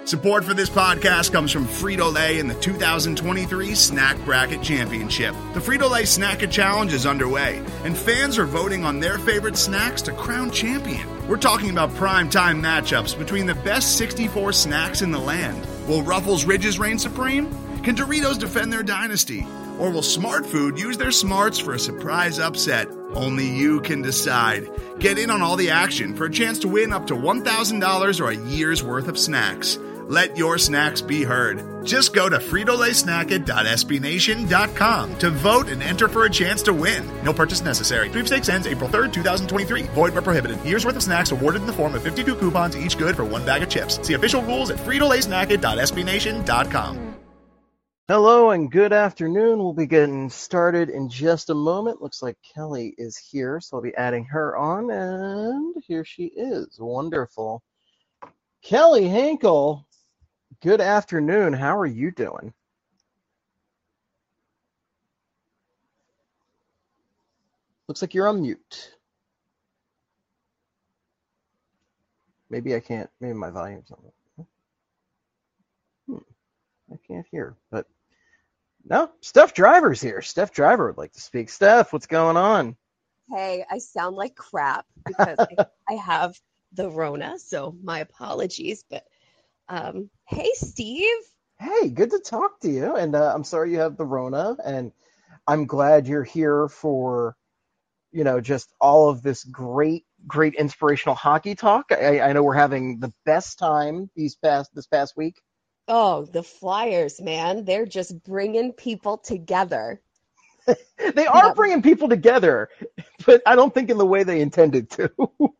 Support for this podcast comes from Frito-Lay and the 2023 Snack Bracket Championship. The Frito-Lay Snack Challenge is underway, and fans are voting on their favorite snacks to crown champion. We're talking about prime-time matchups between the best 64 snacks in the land. Will Ruffles Ridges reign supreme? Can Doritos defend their dynasty? Or will Smart Food use their smarts for a surprise upset? Only you can decide. Get in on all the action for a chance to win up to $1,000 or a year's worth of snacks. Let your snacks be heard. Just go to fritolaysnacket.sbnation.com to vote and enter for a chance to win. No purchase necessary. Sweepstakes ends April 3rd, 2023. Void where prohibited. Year's worth of snacks awarded in the form of 52 coupons, each good for one bag of chips. See official rules at fritolaysnacket.sbnation.com. Hello and good afternoon. We'll be getting started in just a moment. Looks like Kelly is here, so I'll be adding her on, and here she is. Wonderful. Kelly Hinkle, good afternoon. How are you doing? Looks like you're on mute. Maybe I can't. Maybe my volume's on. I can't hear, but no, Steph Driver's here. Steph Driver would like to speak. Steph, what's going on? Hey, I sound like crap because I have the Rona, so my apologies. But hey, Steve. Hey, good to talk to you. And I'm sorry you have the Rona, and I'm glad you're here for, just all of this great inspirational hockey talk. I know we're having the best time this past week. Oh, the Flyers, man. They're just bringing people together. They are bringing people together, but I don't think in the way they intended to.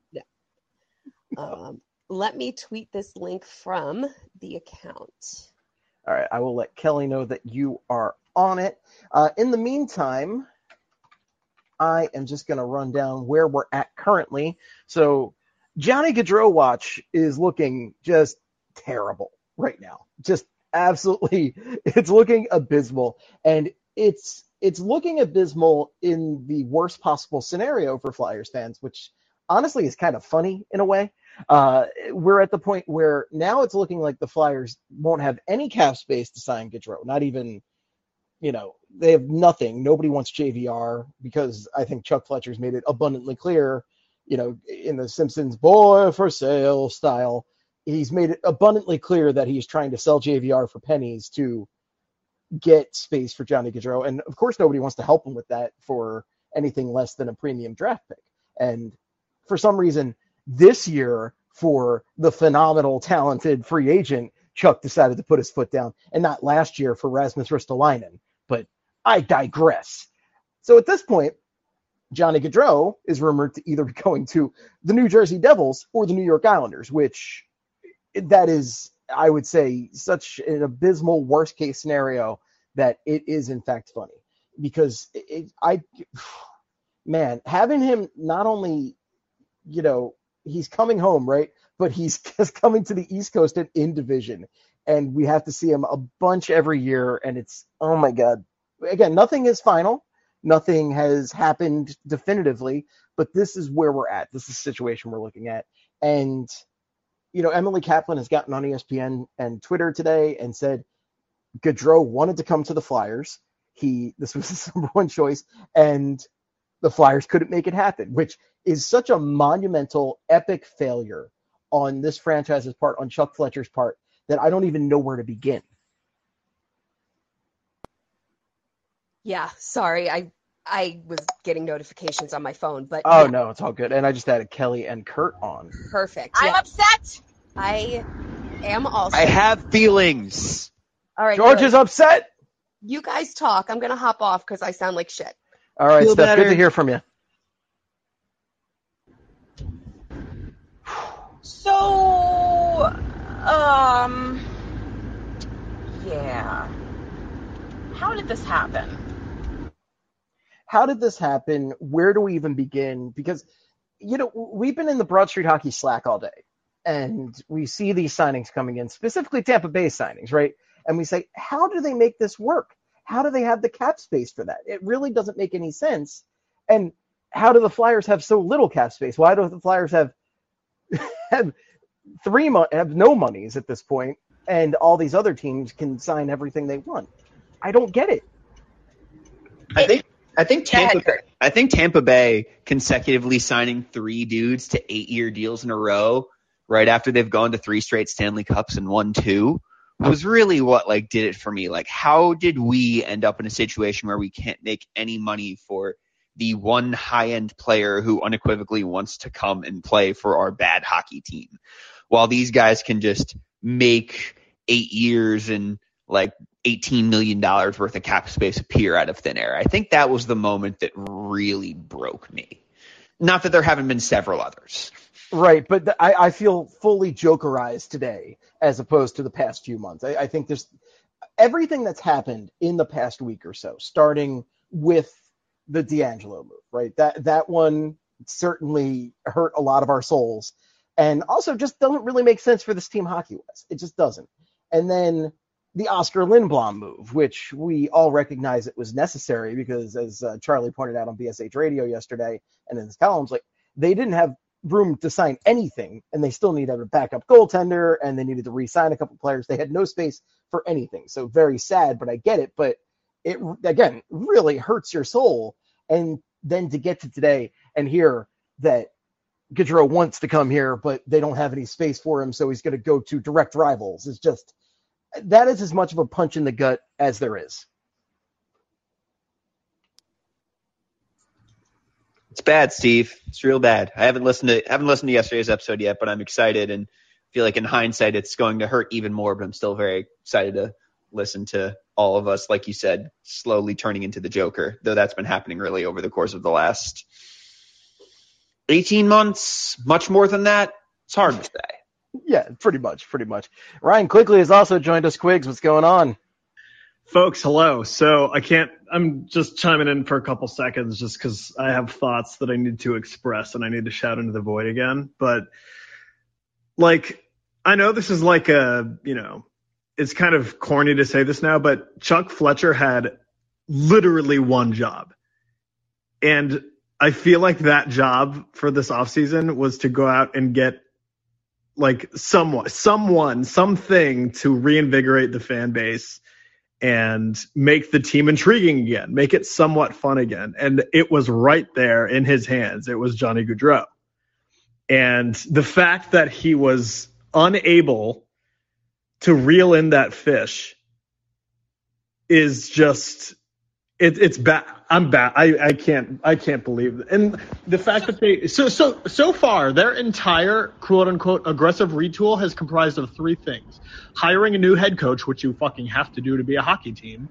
No. Let me tweet this link from the account. All right. I will let Kelly know that you are on it. In the meantime, I am just going to run down where we're at currently. So Johnny Gaudreau watch is looking just terrible right now. Just absolutely, it's looking abysmal. And it's looking abysmal in the worst possible scenario for Flyers fans, which honestly is kind of funny in a way. We're at the point where now it's looking like the Flyers won't have any cap space to sign Gaudreau. Not even, they have nothing. Nobody wants JVR because I think Chuck Fletcher's made it abundantly clear, in the Simpsons boy for sale style. He's made it abundantly clear that he's trying to sell JVR for pennies to get space for Johnny Gaudreau. And of course, nobody wants to help him with that for anything less than a premium draft pick. And for some reason, this year, for the phenomenal, talented free agent, Chuck decided to put his foot down, and not last year for Rasmus Ristolainen. But I digress. So at this point, Johnny Gaudreau is rumored to either be going to the New Jersey Devils or the New York Islanders, which that is, I would say, such an abysmal worst-case scenario that it is, in fact, funny. Because, having him not only, he's coming home, right? But he's just coming to the East Coast and in division. And we have to see him a bunch every year. And it's, oh, my God. Again, nothing is final. Nothing has happened definitively. But this is where we're at. This is the situation we're looking at. And Emily Kaplan has gotten on ESPN and Twitter today and said Gaudreau wanted to come to the Flyers. This was his number one choice, and the Flyers couldn't make it happen, which is such a monumental, epic failure on this franchise's part, on Chuck Fletcher's part, that I don't even know where to begin. Yeah, sorry. I was getting notifications on my phone, but no, it's all good. And I just added Kelly and Kurt on. Perfect. I'm upset. I am also. I have feelings. All right, George is upset. You guys talk. I'm gonna hop off because I sound like shit. All right, Feel Steph. better. Good to hear from you. So, yeah. How did this happen? How did this happen? Where do we even begin? Because, we've been in the Broad Street Hockey Slack all day, and we see these signings coming in, specifically Tampa Bay signings, right? And we say, how do they make this work? How do they have the cap space for that? It really doesn't make any sense. And how do the Flyers have so little cap space? Why do the Flyers have no monies at this point? and all these other teams can sign everything they want. I don't get it. I think Tampa Bay consecutively signing 3 dudes to 8-year deals in a row right after they've gone to 3 straight Stanley Cups and won 2 was really what did it for me. How did we end up in a situation where we can't make any money for the one high-end player who unequivocally wants to come and play for our bad hockey team, while these guys can just make 8 years and $18 million worth of cap space appear out of thin air? I think that was the moment that really broke me. Not that there haven't been several others. Right, but I feel fully Jokerized today as opposed to the past few months. I think there's everything that's happened in the past week or so, starting with the DeAngelo move, right? That one certainly hurt a lot of our souls, and also just doesn't really make sense for this team hockey-wise. It just doesn't. And then the Oscar Lindblom move, which we all recognize it was necessary because, as Charlie pointed out on BSH Radio yesterday and in his columns, they didn't have room to sign anything, and they still needed a backup goaltender, and they needed to re-sign a couple players. They had no space for anything. So very sad, but I get it. But it, again, really hurts your soul. And then to get to today and hear that Gaudreau wants to come here, but they don't have any space for him, so he's going to go to direct rivals. It's just, that is as much of a punch in the gut as there is. It's bad, Steve. It's real bad. I haven't listened to yesterday's episode yet, but I'm excited and feel like in hindsight it's going to hurt even more, but I'm still very excited to listen to all of us, like you said, slowly turning into the Joker, though that's been happening really over the course of the last 18 months, much more than that. It's hard to say. Yeah, pretty much. Ryan Quigley has also joined us. Quiggs, what's going on? Folks, hello. So I'm just chiming in for a couple seconds just because I have thoughts that I need to express and I need to shout into the void again. But I know this is it's kind of corny to say this now, but Chuck Fletcher had literally one job. And I feel like that job for this offseason was to go out and get something to reinvigorate the fan base and make the team intriguing again, make it somewhat fun again. And it was right there in his hands. It was Johnny Gaudreau. And the fact that he was unable to reel in that fish is just, it's bad. I'm bad. I can't believe it. And the fact that they, so far, their entire quote unquote aggressive retool has comprised of 3 things: hiring a new head coach, which you fucking have to do to be a hockey team,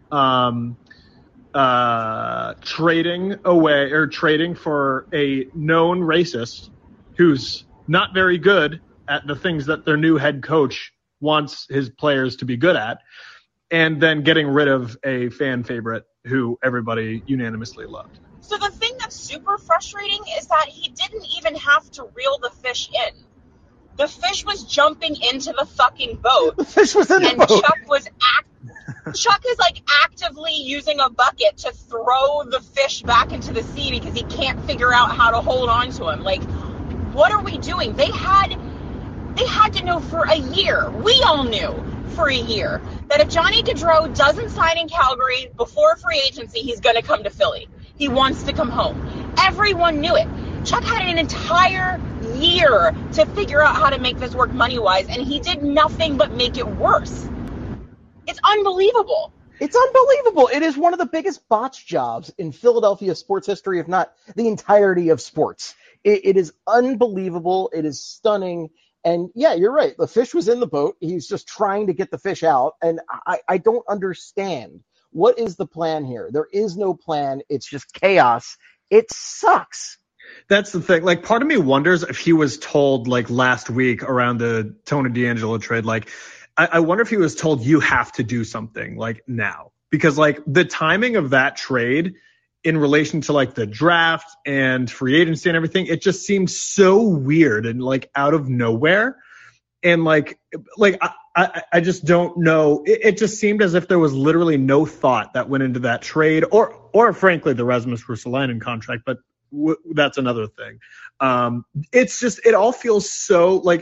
trading for a known racist who's not very good at the things that their new head coach wants his players to be good at, and then getting rid of a fan favorite who everybody unanimously loved. So the thing that's super frustrating is that he didn't even have to reel the fish in. The fish was jumping into the fucking boat. The fish was in the boat. Chuck is actively using a bucket to throw the fish back into the sea because he can't figure out how to hold on to him. What are we doing? They had to know for a year. We all knew for a year that if Johnny Gaudreau doesn't sign in Calgary before free agency, he's going to come to Philly. He wants to come home. Everyone knew it. Chuck had an entire year to figure out how to make this work money-wise, and he did nothing but make it worse. It's unbelievable. It's unbelievable. It is one of the biggest botch jobs in Philadelphia sports history, if not the entirety of sports. It is unbelievable. It is stunning. And yeah, you're right. The fish was in the boat. He's just trying to get the fish out. And I don't understand. What is the plan here? There is no plan. It's just chaos. It sucks. That's the thing. Part of me wonders if he was told last week around the Tony DeAngelo trade, I wonder if he was told you have to do something now, because the timing of that trade in relation to the draft and free agency and everything, it just seemed so weird and out of nowhere. And I just don't know. It just seemed as if there was literally no thought that went into that trade or frankly, the Rasmus Ristolainen contract, but that's another thing. It's just, it all feels so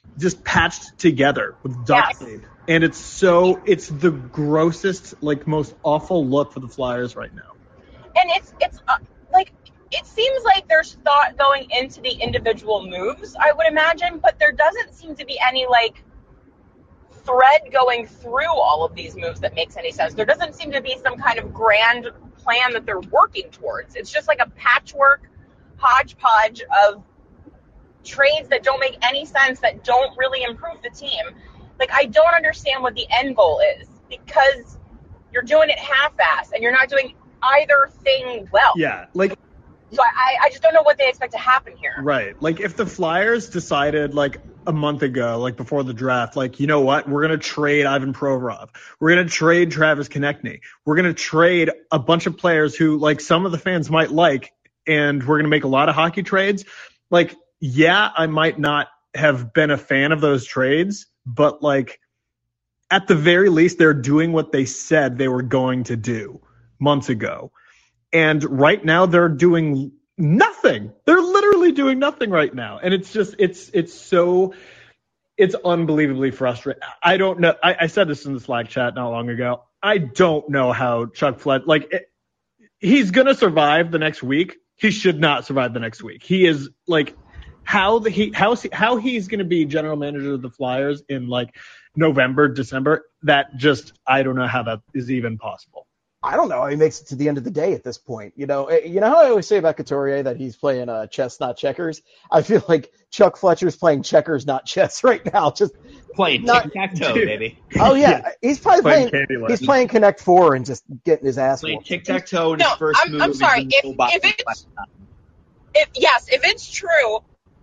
just patched together with duct tape. And it's the grossest, like, most awful look for the Flyers right now. And it's like, it seems like there's thought going into the individual moves, I would imagine, but there doesn't seem to be any, like, thread going through all of these moves that makes any sense. There doesn't seem to be some kind of grand plan that they're working towards. It's just like a patchwork hodgepodge of trades that don't make any sense, that don't really improve the team. Like, I don't understand what the end goal is, because you're doing it half-assed and you're not doing either thing well. Yeah, like, so I just don't know what they expect to happen here. Right. Like, if the Flyers decided, like, a month ago, like, before the draft, like, you know what? We're going to trade Ivan Provorov. We're going to trade Travis Konechny. We're going to trade a bunch of players who, like, some of the fans might like, and we're going to make a lot of hockey trades. Like, yeah, I might not have been a fan of those trades, but, like, at the very least, they're doing what they said they were going to do months ago. And right now they're doing nothing. They're literally doing nothing right now. And it's just, it's unbelievably frustrating. I don't know. I said this in the Slack chat not long ago. I don't know how Chuck Fletcher, like, he's going to survive the next week. He should not survive the next week. He is, like, how he's going to be general manager of the Flyers in, like, November, December. That just, I don't know how that is even possible. I don't know how he makes it to the end of the day at this point. You know how I always say about Couturier that he's playing chess, not checkers? I feel like Chuck Fletcher's playing checkers, not chess right now. Just playing tic-tac-toe, baby. Oh, yeah. He's probably playing Connect 4 and just getting his ass playing whooped. tic-tac-toe in his first move. I'm sorry. If it's true,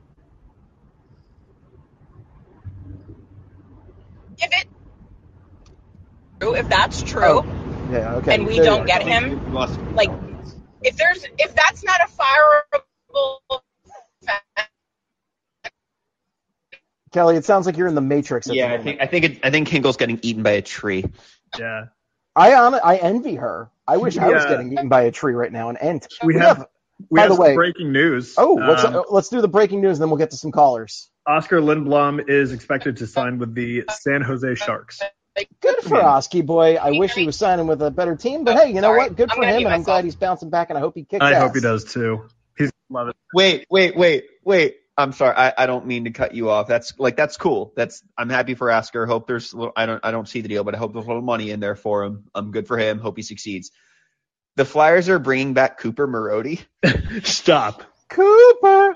if that's true, yeah, okay. and we don't get him, like, if that's not a fireable fact. Kelly, it sounds like you're in the Matrix. Yeah, I think Hinkle's getting eaten by a tree. Yeah, I envy her. I wish I was getting eaten by a tree right now. And we have some breaking news. Oh, let's do the breaking news, and then we'll get to some callers. Oscar Lindblom is expected to sign with the San Jose Sharks. Good for Oski, boy. I wish he was signing with a better team, but hey, you know what? Good for him, and I'm glad he's bouncing back, and I hope he kicks ass. I hope he does too. He's love it. Wait. I'm sorry. I don't mean to cut you off. That's cool. I'm happy for Oscar. Hope there's I don't see the deal, but I hope there's a little money in there for him. I'm good for him. Hope he succeeds. The Flyers are bringing back Cooper Marody. Stop. Cooper.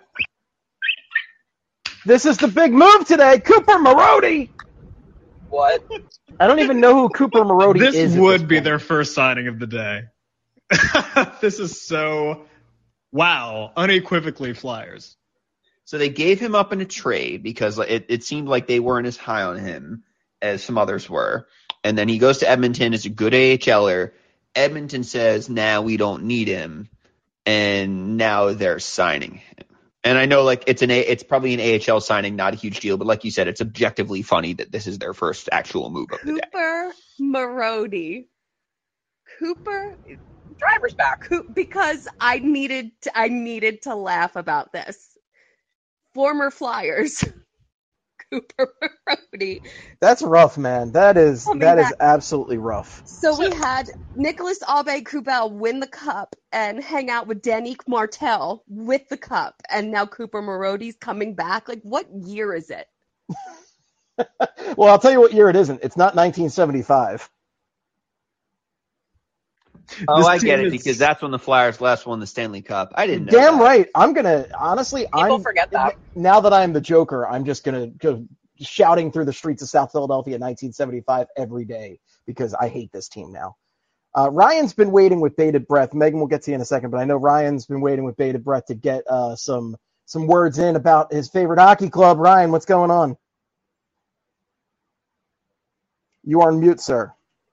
This is the big move today. Cooper Marody. What? I don't even know who Cooper Marody is. This would be their first signing of the day. This is so, wow, unequivocally Flyers. So they gave him up in a trade because it seemed like they weren't as high on him as some others were. And then he goes to Edmonton as a good AHLer. Edmonton says, now we don't need him. And now they're signing him. And I know, like, it's probably an AHL signing, not a huge deal, but like you said, it's objectively funny that this is their first actual move of the day. Cooper Marody. Cooper Driver's back. Because I needed to laugh about this. Former Flyers. Cooper Marody. That's rough, man. That is absolutely rough. So we had Nicholas Aube-Kubel win the cup and hang out with Danique Martel with the cup, and now Cooper Marody's coming back. Like, what year is it? Well, I'll tell you what year it isn't. It's not 1975. Oh, I get it, because that's when the Flyers last won the Stanley Cup. I didn't know Damn that. right. I'm going to, honestly, People forget that. Now that I'm the Joker, I'm just going to go shouting through the streets of South Philadelphia in 1975 every day because I hate this team now. Ryan's been waiting with bated breath. Megan will get to you in a second, but I know Ryan's been waiting with bated breath to get some words in about his favorite hockey club. Ryan, what's going on? You are on mute, sir.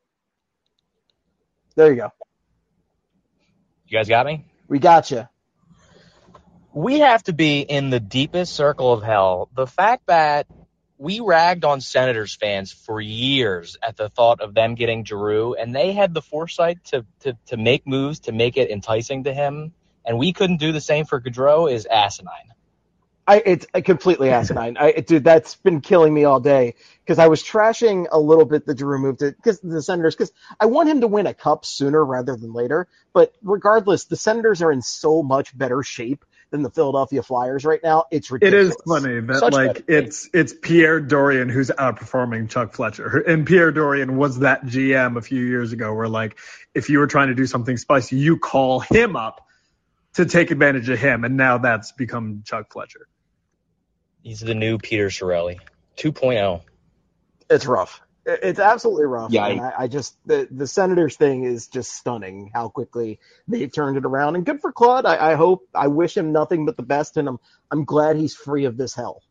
There you go. You guys got me? We got you. We have to be in the deepest circle of hell. The fact that we ragged on Senators fans for years at the thought of them getting Giroux, and they had the foresight to make moves to make it enticing to him, and we couldn't do the same for Gaudreau is asinine. It's completely asinine. Dude, that's been killing me all day because I was trashing a little bit the Drew move because the Senators, because I want him to win a cup sooner rather than later. But regardless, the Senators are in so much better shape than the Philadelphia Flyers right now. It's It ridiculous. is funny that Such like better it's Pierre Dorian who's outperforming Chuck Fletcher, and Pierre Dorian was that GM a few years ago where like if you were trying to do something spicy, you call him up to take advantage of him, and now that's become Chuck Fletcher. He's the new Peter Chiarelli 2.0. It's rough. It's absolutely rough. Yeah, And I just the Senators thing is just stunning how quickly they've turned it around. And good for Claude. I wish him nothing but the best, and I'm glad he's free of this hell.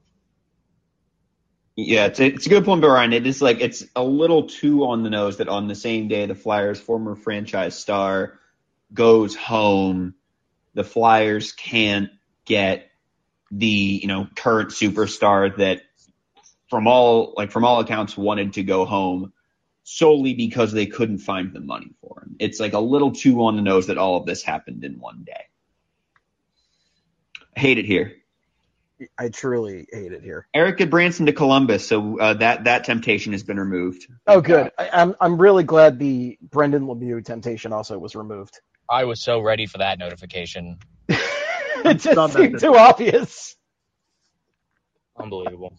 Yeah, it's a good point, Brian. It is like it's a little too on the nose that on the same day the Flyers' former franchise star goes home, the Flyers can't get the current superstar that from all accounts wanted to go home solely because they couldn't find the money for him. It's like a little too on the nose that all of this happened in one day. I hate it here. I truly hate it here. Eric Goodbranson to Columbus, so that temptation has been removed. Oh, good. I'm really glad the Brendan Lemieux temptation also was removed. I was so ready for that notification. It just seemed too obvious. Unbelievable.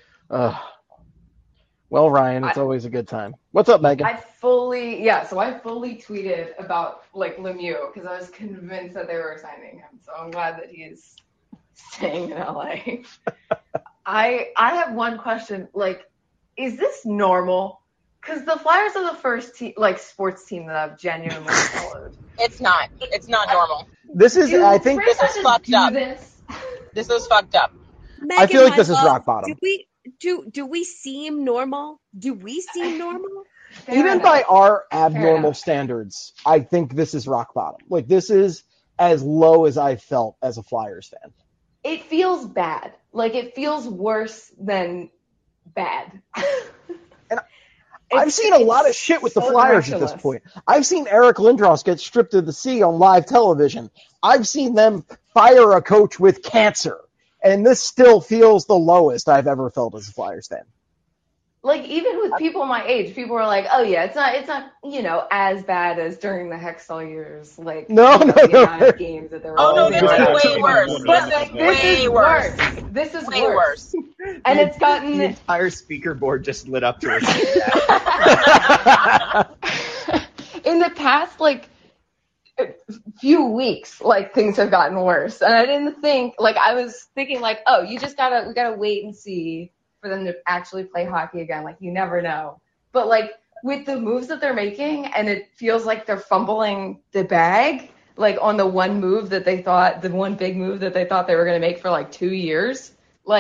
Well, Ryan, it's always a good time. What's up, Megan? I fully tweeted about like Lemieux because I was convinced that they were signing him. So I'm glad that he's staying in LA. I have one question. Like, is this normal? Because the Flyers are the first sports team that I've genuinely followed. It's not. It's not normal. This is, I think, this is fucked up. This is fucked up. Megan, I feel like this is love, rock bottom. Do we seem normal? Do we seem normal? Even by our abnormal standards, I think this is rock bottom. Like, this is as low as I felt as a Flyers fan. It feels bad. Like, it feels worse than bad. I've seen a lot of shit with the Flyers at this point. I've seen Eric Lindros get stripped to the sea on live television. I've seen them fire a coach with cancer. And this still feels the lowest I've ever felt as a Flyers fan. Like, even with people my age, people were like, oh, yeah, it's not as bad as during the Hextall years. Like, no. amount of games that there were. Oh, no, this is way worse. This is way worse. This is way worse. And it's gotten... The entire speaker board just lit up to receive that. In the past, few weeks, things have gotten worse. And I didn't think, I was thinking, oh, we gotta wait and see for them to actually play hockey again. You never know. But, with the moves that they're making, and it feels like they're fumbling the bag, on the one move that they thought, the one big move that they thought they were going to make for, 2 years.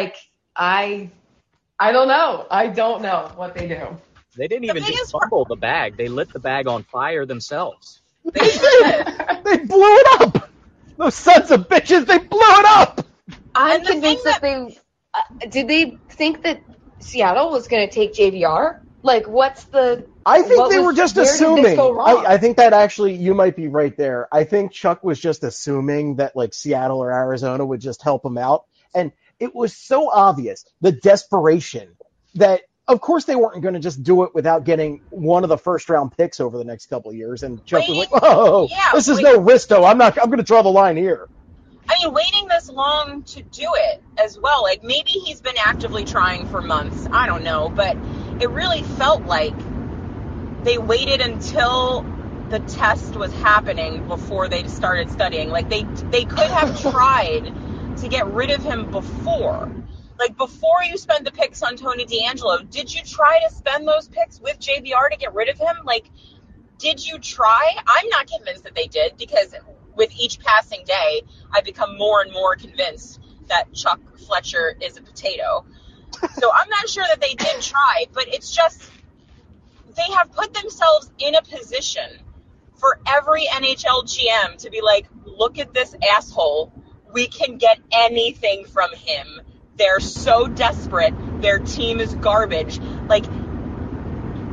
I don't know. I don't know what they do. They didn't even just fumble the bag. They lit the bag on fire themselves. They blew it up. Those sons of bitches, they blew it up. I'm convinced that they did they think that Seattle was going to take JVR? What's the... I think they were just assuming. I think that actually, you might be right there. I think Chuck was just assuming that, Seattle or Arizona would just help him out. And it was so obvious, the desperation, that, of course, they weren't going to just do it without getting one of the first-round picks over the next couple of years. And Chuck was like, "Whoa, this is no Risto. I'm going to draw the line here." I mean, waiting this long to do it as well. Maybe he's been actively trying for months. I don't know. But it really felt like they waited until the test was happening before they started studying. They could have tried to get rid of him before. Before you spend the picks on Tony DeAngelo, did you try to spend those picks with JVR to get rid of him? Did you try? I'm not convinced that they did, because with each passing day, I become more and more convinced that Chuck Fletcher is a potato. So I'm not sure that they did try, but it's just they have put themselves in a position for every NHL GM to be like, look at this asshole. We can get anything from him. They're so desperate. Their team is garbage.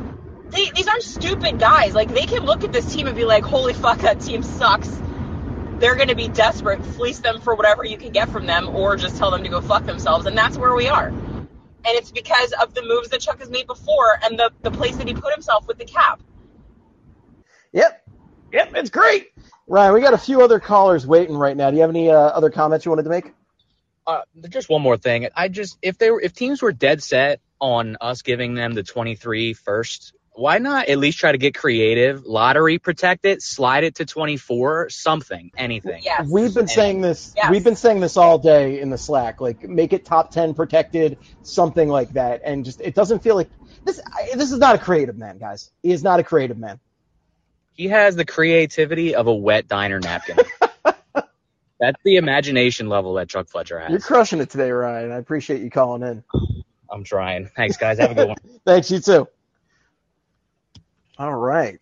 These aren't stupid guys. They can look at this team and be like, holy fuck, that team sucks. they're going to be desperate, fleece them for whatever you can get from them, or just tell them to go fuck themselves, and that's where we are. And it's because of the moves that Chuck has made before and the place that he put himself with the cap. Yep, it's great. Ryan, we got a few other callers waiting right now. Do you have any other comments you wanted to make? Just one more thing. If teams were dead set on us giving them the 23 first, why not at least try to get creative, lottery protect it, slide it to 24, something, anything. Yes. We've been saying this. Yes. We've been saying this all day in the Slack. Like, make it top 10 protected, something like that. And just, it doesn't feel like this. This is not a creative man, guys. He is not a creative man. He has the creativity of a wet diner napkin. That's the imagination level that Chuck Fletcher has. You're crushing it today, Ryan. I appreciate you calling in. I'm trying. Thanks, guys. Have a good one. Thanks, you too. All right.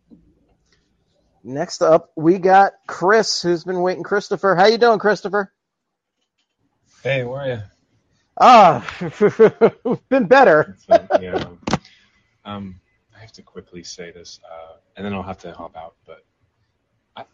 Next up, we got Chris, who's been waiting. Christopher, how you doing, Christopher? Hey, how are you? Been better. So, yeah, I have to quickly say this, and then I'll have to hop out. But I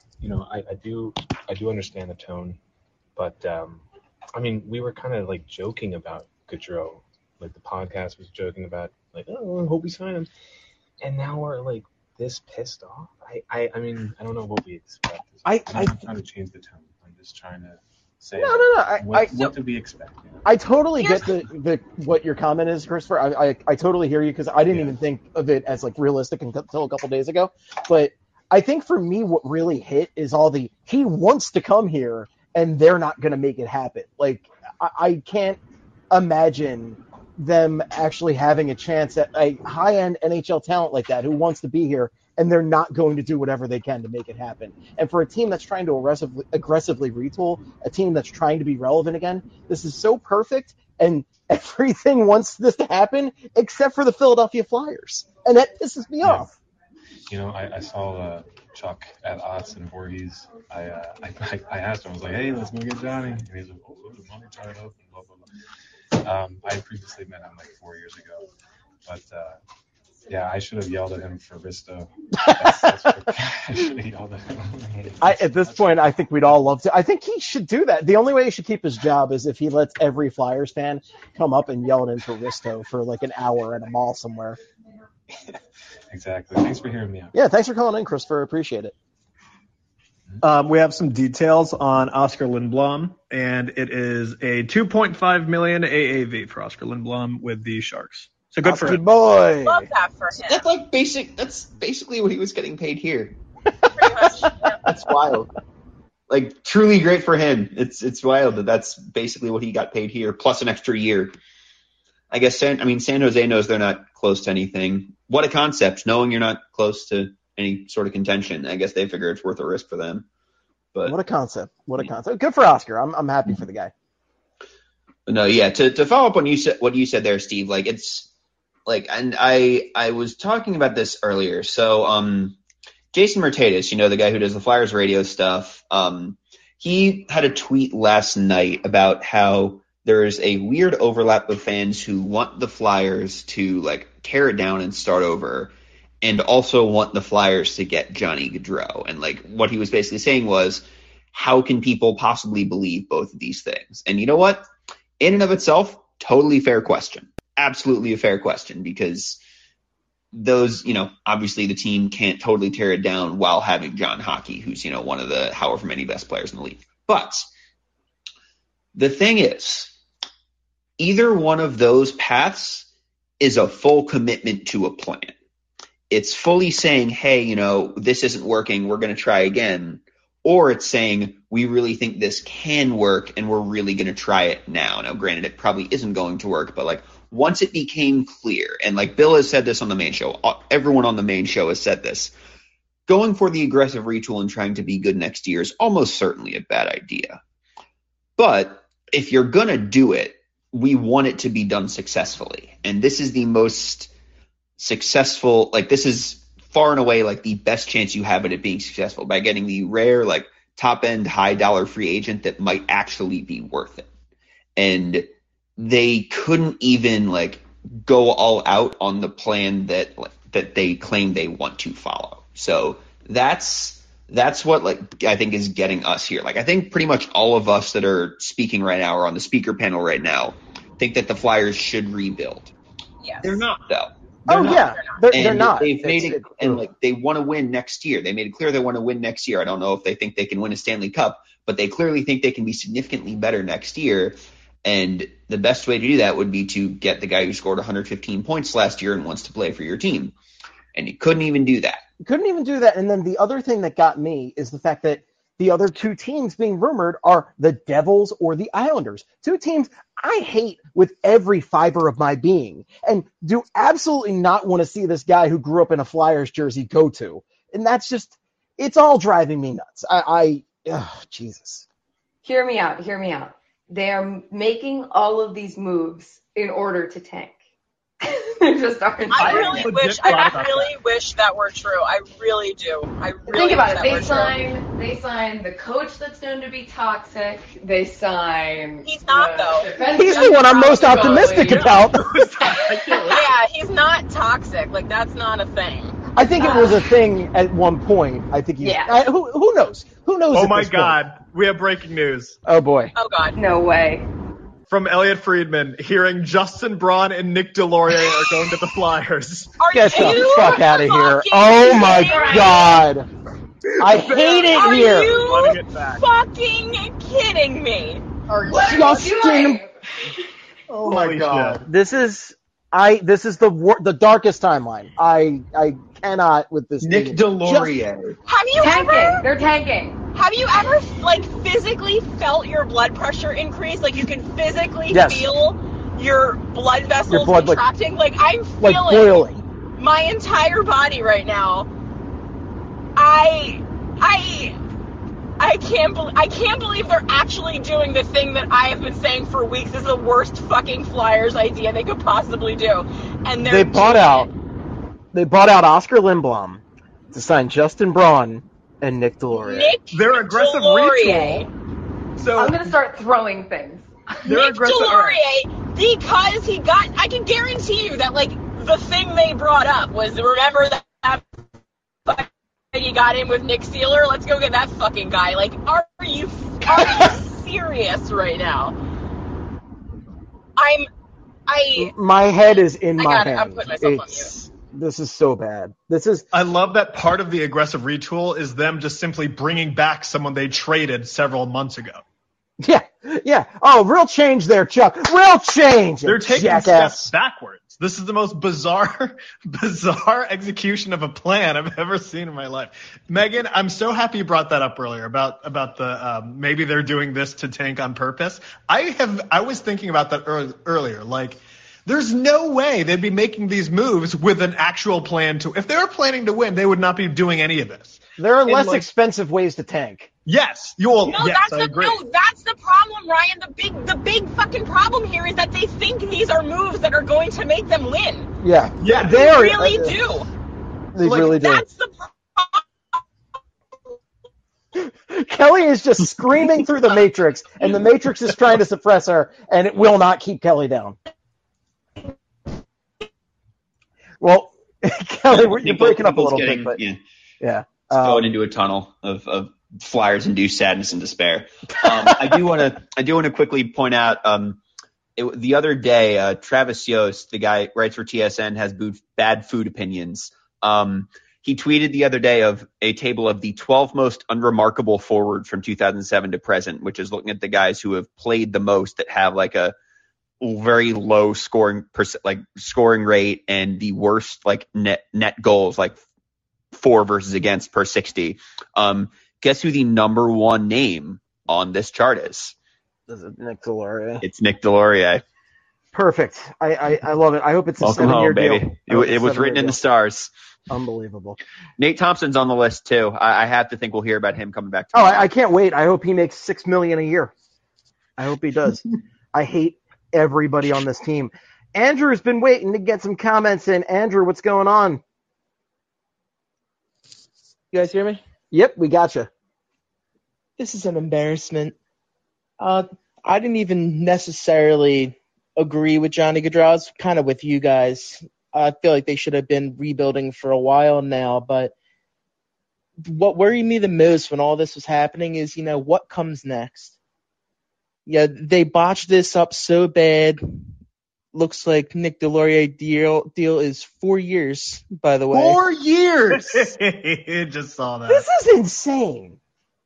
do understand the tone, but I mean, we were kind of like joking about Gaudreau, like the podcast was joking about, like, oh, I hope we sign him, and now we're like this pissed off. I mean, I don't know what we expect. I'm not trying to change the tone. I'm just trying to say, no. What do we expect? You know? I totally get the what your comment is, Christopher. I totally hear you, because I didn't even think of it as like realistic until a couple days ago. But I think for me, what really hit is all the he wants to come here and they're not going to make it happen. Like, I can't imagine them actually having a chance at a high-end NHL talent like that who wants to be here, and they're not going to do whatever they can to make it happen. And for a team that's trying to aggressively retool, a team that's trying to be relevant again, this is so perfect, and everything wants this to happen except for the Philadelphia Flyers. And that pisses me off. You know, I saw Chuck at Otts and Voorhees. I asked him, I was like, hey, let's go get Johnny. And he's like, oh, the money tied up, and blah, blah, blah. I had previously met him like 4 years ago. But, yeah, I should have yelled at him for Risto. I should have yelled at him. At this point, I think we'd all love to. I think he should do that. The only way he should keep his job is if he lets every Flyers fan come up and yell at him for Risto for like an hour at a mall somewhere. Exactly. Thanks for hearing me out. Yeah, thanks for calling in, Christopher. Appreciate it. We have some details on Oscar Lindblom, and it is a $2.5 million AAV for Oscar Lindblom with the Sharks. So good for him. Boy. Love that for him. That's like that's basically what he was getting paid here. Pretty much. Yeah. That's wild. Like, truly great for him. It's wild that that's basically what he got paid here, plus an extra year. I guess San Jose knows they're not close to anything. What a concept, knowing you're not close to any sort of contention. I guess they figure it's worth a risk for them. But what a concept. What a concept. Good for Oscar. I'm happy for the guy. No, yeah, to follow up on what you said there, Steve, like, it's like, and I was talking about this earlier. So Jason Mercedes, you know, the guy who does the Flyers radio stuff, he had a tweet last night about how there's a weird overlap of fans who want the Flyers to like tear it down and start over, and also want the Flyers to get Johnny Gaudreau. And like what he was basically saying was, how can people possibly believe both of these things? And you know what? In and of itself, totally fair question. Absolutely a fair question, because those, you know, obviously the team can't totally tear it down while having John Hockey, who's, you know, one of the however many best players in the league. But the thing is, either one of those paths is a full commitment to a plan. It's fully saying, hey, you know, this isn't working, we're going to try again. Or it's saying, we really think this can work and we're really going to try it now. Now, granted, it probably isn't going to work, but like once it became clear, and like Bill has said this on the main show, everyone on the main show has said this, going for the aggressive retool and trying to be good next year is almost certainly a bad idea. But if you're going to do it, we want it to be done successfully. And this is the most successful, like this is far and away like the best chance you have at it being successful, by getting the rare, like top end, high dollar free agent that might actually be worth it. And they couldn't even like go all out on the plan that they claim they want to follow. So that's That's what I think is getting us here. I think pretty much all of us that are speaking right now or on the speaker panel right now think that the Flyers should rebuild. Yes. They're not, though. They're not. They've made it, and they want to win next year. They made it clear they want to win next year. I don't know if they think they can win a Stanley Cup, but they clearly think they can be significantly better next year. And the best way to do that would be to get the guy who scored 115 points last year and wants to play for your team. And you couldn't even do that. And then the other thing that got me is the fact that the other two teams being rumored are the Devils or the Islanders. Two teams I hate with every fiber of my being and do absolutely not want to see this guy who grew up in a Flyers jersey go to. And that's just, it's all driving me nuts. Jesus. Hear me out. They are making all of these moves in order to tank. They just aren't. I really wish that were true. I really do. Think about it. They sign the coach that's known to be toxic. They sign. He's not though. He's the one I'm most optimistic about. Yeah, he's not toxic. That's not a thing. I think it was a thing at one point. I think who knows? Who knows? Oh my God, we have breaking news. Oh boy. Oh God. No way. From Elliot Friedman, hearing Justin Braun and Nick Delorier are going to the Flyers. Get the fuck out of here. Oh my God. I hate it here. Are you fucking kidding me? Justin. Oh my God. Shit. This is the darkest timeline. I cannot with this. Nick Delorier. Have you ever? They're tanking. Have you ever physically felt your blood pressure increase? You can physically feel your blood vessels contracting. I'm feeling boiling. My entire body right now. I can't believe they're actually doing the thing that I have been saying for weeks is the worst fucking Flyers idea they could possibly do. And they bought out Oscar Lindblom to sign Justin Braun and Nick Delorier. Their aggressive ritual. So I'm gonna start throwing things. Nick Delorier, because I can guarantee you that the thing they brought up was, remember that you got in with Nick Sealer? Let's go get that fucking guy. Are you serious right now? My head is in my hand. I'm putting myself on mute. This is so bad. I love that part of the aggressive retool is them just simply bringing back someone they traded several months ago. Yeah. Oh, real change there, Chuck. Real change. They're taking steps backwards. This is the most bizarre execution of a plan I've ever seen in my life. Megan, I'm so happy you brought that up earlier about the maybe they're doing this to tank on purpose. I was thinking about that earlier. There's no way they'd be making these moves with an actual plan to. If they were planning to win, they would not be doing any of this. There are less expensive ways to tank. Yes, I agree. No, that's the problem, Ryan. The big fucking problem here is that they think these are moves that are going to make them win. Yeah, they really do. They really do. That's the problem. Kelly is just screaming through the Matrix, and the Matrix is trying to suppress her, and it will not keep Kelly down. Well, Kelly, you're breaking up a little bit, but yeah. Going into a tunnel of Flyers-induced sadness and despair. I do want to quickly point out the other day, Travis Yost, the guy writes for TSN, has bad food opinions. He tweeted the other day of a table of the 12 most unremarkable forward from 2007 to present, which is looking at the guys who have played the most that have a very low scoring rate and the worst net goals, for versus against per 60. Guess who the number one name on this chart is? Is it Nick Delorier? It's Nick Delorier. Perfect. I love it. I hope it's a Welcome 7-year home, baby. deal. It was written in the stars. Unbelievable. Nate Thompson's on the list too. I have to think we'll hear about him coming back. I can't wait. I hope he makes $6 million a year. I hope he does. I hate everybody on this team. Andrew's been waiting to get some comments in. Andrew, what's going on? You guys hear me? Yep, we got you. This is an embarrassment. I didn't even necessarily agree with Johnny Gaudreau. I was kind of with you guys. I feel like they should have been rebuilding for a while now, but what worried me the most when all this was happening is, what comes next? Yeah, they botched this up so bad. Looks like Nick Deslauriers deal is 4 years, by the way. 4 years! Just saw that. This is insane.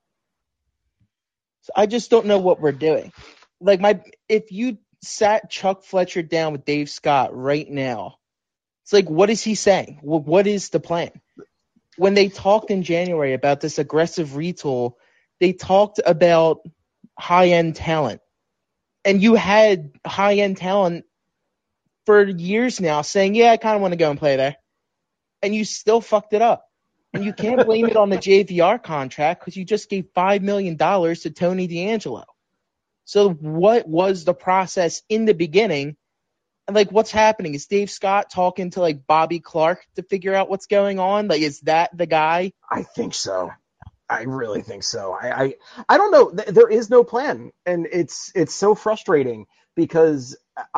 So I just don't know what we're doing. If you sat Chuck Fletcher down with Dave Scott right now, it's like, what is he saying? What is the plan? When they talked in January about this aggressive retool, they talked about high-end talent. And you had high-end talent for years now saying, yeah, I kind of want to go and play there. And you still fucked it up. And you can't blame it on the JVR contract because you just gave $5 million to Tony DeAngelo. So what was the process in the beginning? And, what's happening? Is Dave Scott talking to, Bobby Clark to figure out what's going on? Is that the guy? I think so. I really think so. I don't know. There is no plan. And it's so frustrating because,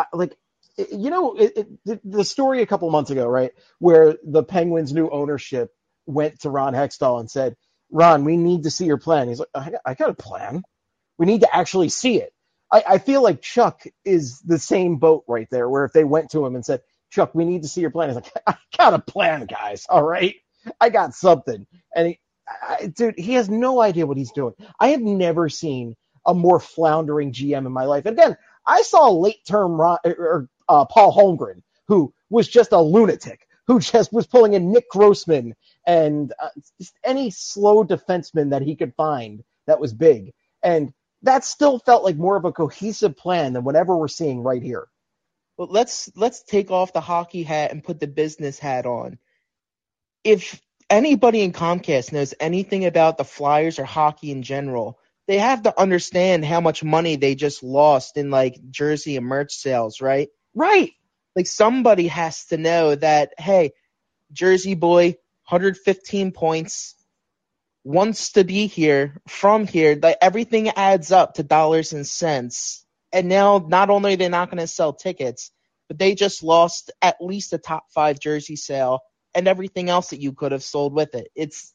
the story a couple months ago, right, where the Penguins' new ownership went to Ron Hextall and said, Ron, we need to see your plan. He's like, I got a plan. We need to actually see it. I feel like Chuck is the same boat right there, where if they went to him and said, Chuck, we need to see your plan. He's like, I got a plan, guys. All right. I got something. And he has no idea what he's doing. I have never seen a more floundering GM in my life. And again, I saw late-term Paul Holmgren, who was just a lunatic, who just was pulling in Nick Grossman and just any slow defenseman that he could find that was big. And that still felt like more of a cohesive plan than whatever we're seeing right here. Well, let's take off the hockey hat and put the business hat on. If anybody in Comcast knows anything about the Flyers or hockey in general, they have to understand how much money they just lost in jersey and merch sales, right? Right. Somebody has to know that, hey, Jersey boy, 115 points, wants to be here, from here, everything adds up to dollars and cents. And now not only are they not going to sell tickets, but they just lost at least a top 5 jersey sale and everything else that you could have sold with it. It's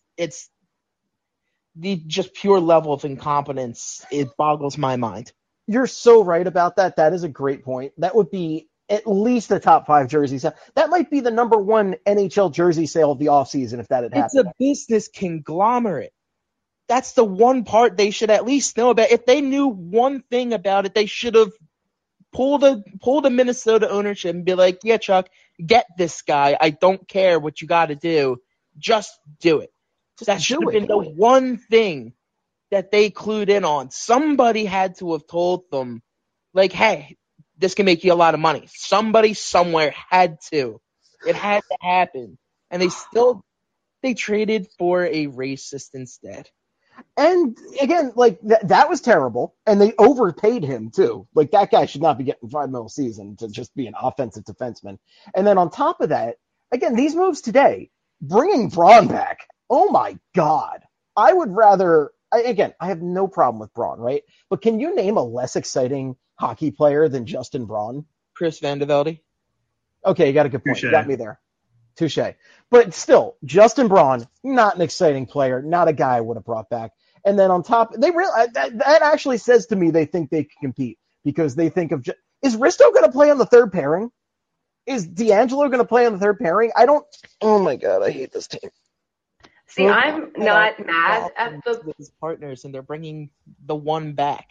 the just pure level of incompetence. It boggles my mind. You're so right about that. That is a great point. That would be at least a top 5 jersey sale. That might be the number 1 NHL jersey sale of the offseason if that had happened. It's a business conglomerate. That's the one part they should at least know about. If they knew one thing about it, they should have pulled the Minnesota ownership and be like, yeah, Chuck, get this guy. I don't care what you got to do. Just do it. That should have been the one thing that they clued in on. Somebody had to have told them, hey, this can make you a lot of money. Somebody somewhere had to. It had to happen. And they traded for a racist instead. And again, that was terrible. And they overpaid him too. That guy should not be getting $5 million a season to just be an offensive defenseman. And then on top of that, again, these moves today, bringing Braun back. Oh my God. I would rather, I have no problem with Braun, right? But can you name a less exciting hockey player than Justin Braun? Chris Van de Velde. Okay, you got a good point. You got me there. Touche. But still, Justin Braun, not an exciting player, not a guy I would have brought back. And then on top, that actually says to me they think they can compete because they think of, is Risto going to play on the third pairing? Is DeAngelo going to play on the third pairing? Oh my God, I hate this team. See, I'm not mad at his partners, and they're bringing the one back.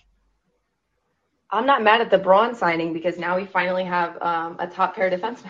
I'm not mad at the Braun signing because now we finally have a top pair defenseman.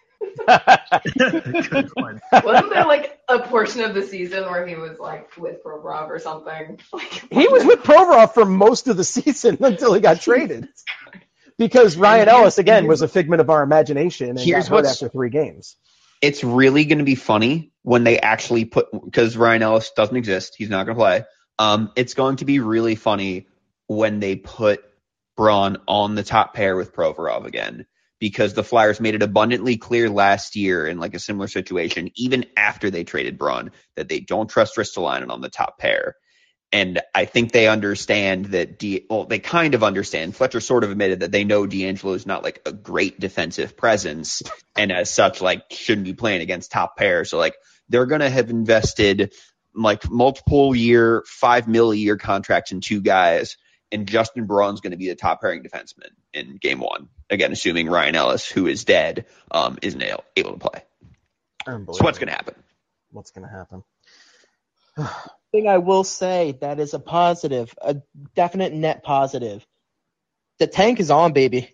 Good one. Wasn't there a portion of the season where he was with Provorov or something? He was with Provorov for most of the season until he got traded. Because Ryan Ellis, again, was a figment of our imagination and got hurt after 3 games. It's really going to be funny when they actually because Ryan Ellis doesn't exist. He's not going to play. It's going to be really funny when they put Braun on the top pair with Provorov again, because the Flyers made it abundantly clear last year in a similar situation, even after they traded Braun, that they don't trust Ristolainen on the top pair. And I think they understand that they kind of understand. Fletcher sort of admitted that they know DeAngelo is not a great defensive presence, and as such, shouldn't be playing against top pair. So they're going to have invested like multiple year, $5 million a year contracts in 2 guys, and Justin Braun's going to be the top pairing defenseman in game 1. Again, assuming Ryan Ellis, who is dead, isn't able to play. So what's going to happen? What's going to happen? Thing I will say that is a positive, a definite net positive. The tank is on, baby.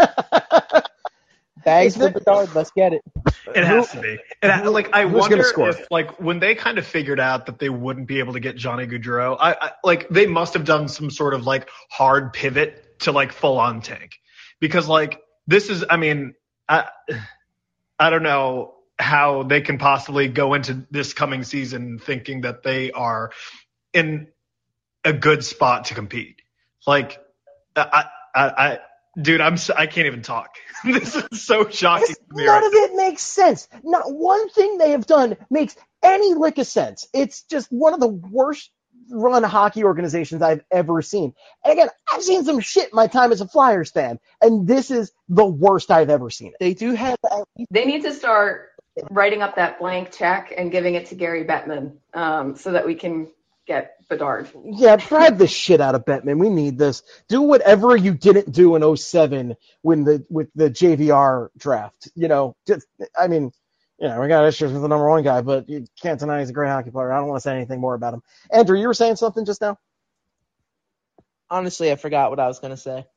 Bags for Bedard, let's get it. It has to be. I who's wonder gonna score? if, like, when they kind of figured out that they wouldn't be able to get Johnny Gaudreau, I they must have done some sort of, like, hard pivot to, like, full-on tank. Because, like, this is, I mean, I don't know how they can possibly go into this coming season thinking that they are in a good spot to compete. Like, dude, I can't even talk. This is so shocking to me. None of it makes sense. Not one thing they have done makes any lick of sense. It's just one of the worst run hockey organizations I've ever seen. And again, I've seen some shit in my time as a Flyers fan, and this is the worst I've ever seen it. They do have. They need to start writing up that blank check and giving it to Gary Bettman so that we can get Bedard. Yeah, drive the shit out of Bettman. We need this. Do whatever you didn't do in 07 with the JVR draft. We got issues with the number 1 guy, but you can't deny he's a great hockey player. I don't want to say anything more about him. Andrew, you were saying something just now? Honestly, I forgot what I was going to say.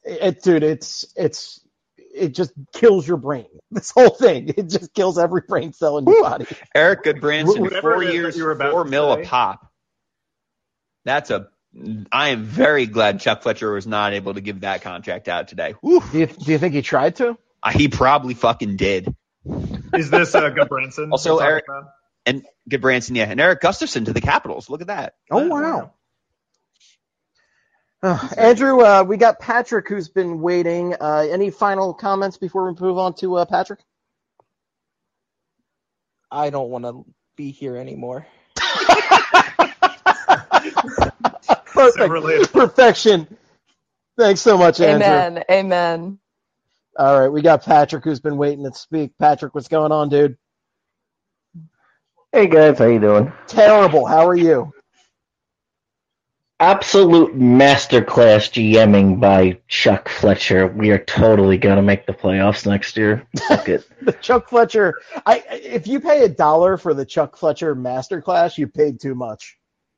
It just kills your brain. This whole thing. It just kills every brain cell in your body. Eric Goodbranson, Whatever 4 it is years, that you were about $4 to million say. a pop. I am very glad Chuck Fletcher was not able to give that contract out today. Whew. Do you think he tried to? He probably fucking did. Is this Goodbranson? Also, Eric and Goodbranson, yeah, and Eric Gustafson to the Capitals. Look at that. Oh, wow. Andrew, we got Patrick who's been waiting. Any final comments before we move on to Patrick? I don't want to be here anymore. Perfect. Perfection. Thanks so much, Andrew. Amen. All right, we got Patrick who's been waiting to speak. Patrick, what's going on, dude? Hey guys, how you doing? Terrible. How are you? Absolute masterclass GMing by Chuck Fletcher. We are totally gonna make the playoffs next year. Fuck it. The Chuck Fletcher. If you pay $1 for the Chuck Fletcher masterclass, you paid too much.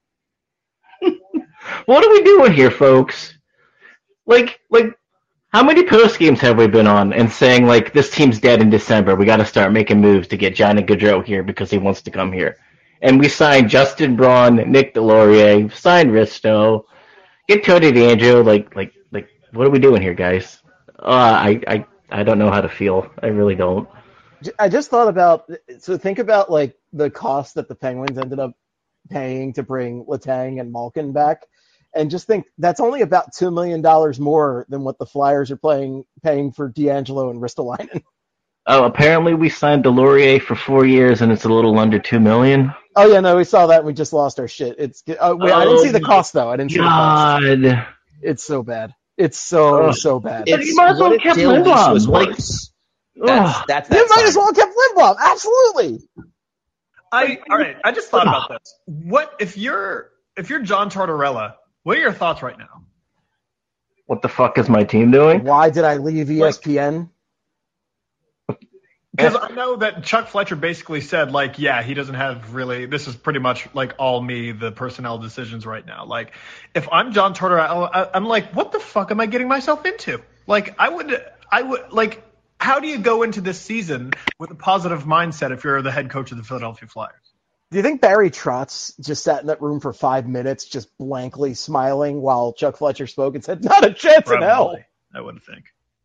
What are we doing here, folks? Like, how many post games have we been on and saying, like, this team's dead in December, we got to start making moves to get Johnny Gaudreau here because he wants to come here? And we signed Justin Braun, Nick Delorier, signed Risto, get Tony DeAngelo. Like, what are we doing here, guys? I don't know how to feel. I really don't. I just thought about, so think about, like, the cost that the Penguins ended up paying to bring Letang and Malkin back, and just think that's only about $2 million more than what the Flyers are paying for DeAngelo and Ristolainen. Oh, apparently we signed Delorier for 4 years and it's a little under $2 million. Oh yeah, no, we saw that and we just lost our shit. I didn't see the cost though. I didn't see the cost. God. It's so bad. It's so bad. You might as well have kept Lindblom. That's you might as well have kept Lindblom. Absolutely. All right. I just thought about this. What if you're John Tortorella? What are your thoughts right now? What the fuck is my team doing? Why did I leave ESPN? Because I know that Chuck Fletcher basically said, like, yeah, he doesn't have really. This is pretty much like all me, the personnel decisions right now. Like, if I'm John Tortorella, I'm like, what the fuck am I getting myself into? Like, I would like. How do you go into this season with a positive mindset if you're the head coach of the Philadelphia Flyers? Do you think Barry Trotz just sat in that room for 5 minutes just blankly smiling while Chuck Fletcher spoke and said, not a chance in hell? I wouldn't think.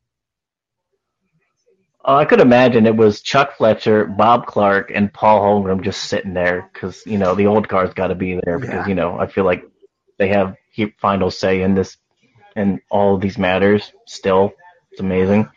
I could imagine it was Chuck Fletcher, Bob Clark, and Paul Holmgren just sitting there because, the old guard's got to be there because, I feel like they have final say in this and all of these matters still. It's amazing.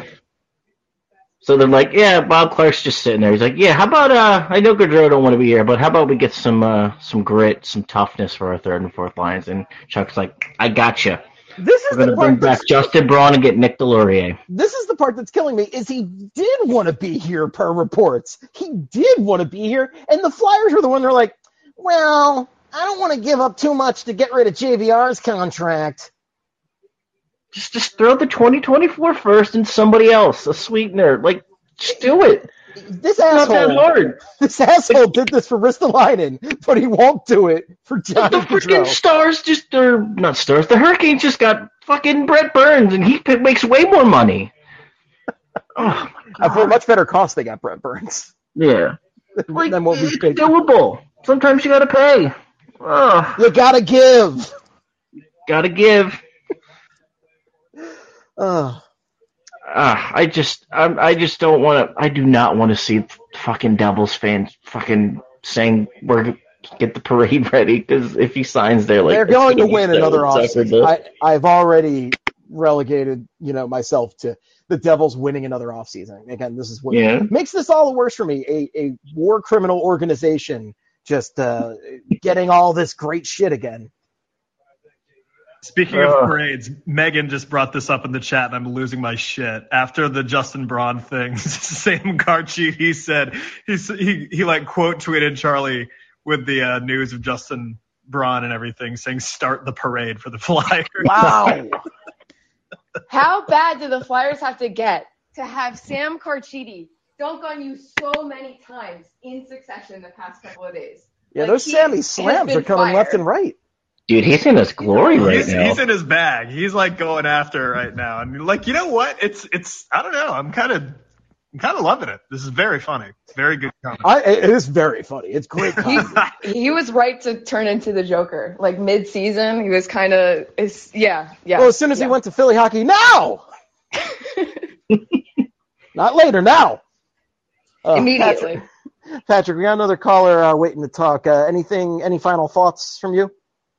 So they're like, yeah, Bob Clark's just sitting there. He's like, yeah, how about I know Gaudreau don't want to be here, but how about we get some grit, some toughness for our third and fourth lines? And Chuck's like, I gotcha. We're going to bring back Justin Braun and get Nick Delorier. This is the part that's killing me, is he did want to be here per reports. He did want to be here, and the Flyers were the one that are like, Well, I don't want to give up too much to get rid of JVR's contract. Just throw the 2024 first and somebody else, a sweetener. Like, just do it. This It's not that hard. This asshole did this for Ristolainen, but he won't do it for Johnny The freaking Gaudreau. Stars not Stars, the Hurricanes just got fucking Brett Burns, and he makes way more money. Oh, my For a much better cost, they got Brett Burns. Yeah. Like, Than what we it's paid. doable. Sometimes you gotta pay. Oh, You gotta give. gotta give. I I just don't want to. I do not want to see fucking Devils fans fucking saying we're get the parade ready, because if he signs there, like, They're it's going to gonna be win so another offseason. insufferable. I've already relegated, myself to the Devils winning another offseason. Again, this is what makes this all the worse for me. A war criminal organization just getting all this great shit again. Speaking of parades, Megan just brought this up in the chat, and I'm losing my shit. After the Justin Braun thing, Sam Garchi, he said he like quote tweeted Charlie with the news of Justin Braun and everything, saying "Start the parade for the Flyers." Wow. How bad do the Flyers have to get to have Sam Carchidi dunk on you so many times in succession the past couple of days? Yeah, those Sammy slams are coming left and right. Dude, he's in his glory right now. He's in his bag. He's like going after it right now, and like, you know what? It's I don't know. I'm kind of loving it. This is very funny. Very good comment. It is very funny. It's great comedy. He was right to turn into the Joker. Like mid-season, he was kind of, yeah. Well, as soon as he went to Philly hockey, now! Not later, now! Immediately. Patrick, we got another caller waiting to talk. Any final thoughts from you?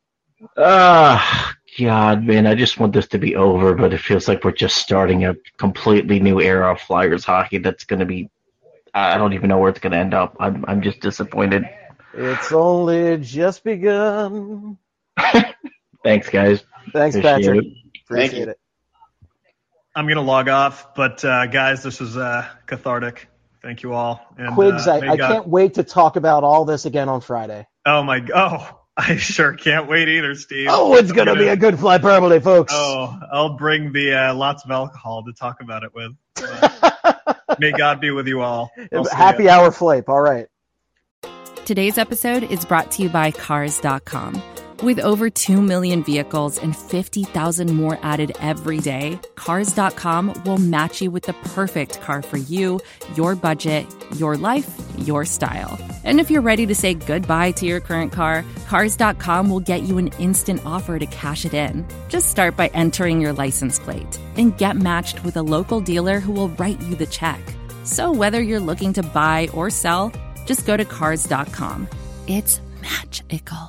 God, man, I just want this to be over, but it feels like we're just starting a completely new era of Flyers hockey that's going to be, I don't even know where it's going to end up. I'm just disappointed. It's only just begun. Thanks, guys. Thanks, Appreciate Patrick. it. Appreciate it. I'm going to log off, but guys, this was cathartic. Thank you all. And, Quigs, I can't wait to talk about all this again on Friday. I sure can't wait either, Steve. Oh, it's going to be a good fly hyperbole, folks. Oh, I'll bring the lots of alcohol to talk about it with. May God be with you all. Happy hour flape. All right. Today's episode is brought to you by Cars.com. With over 2 million vehicles and 50,000 more added every day, Cars.com will match you with the perfect car for you, your budget, your life, your style. And if you're ready to say goodbye to your current car, Cars.com will get you an instant offer to cash it in. Just start by entering your license plate and get matched with a local dealer who will write you the check. So whether you're looking to buy or sell, just go to Cars.com. It's magical.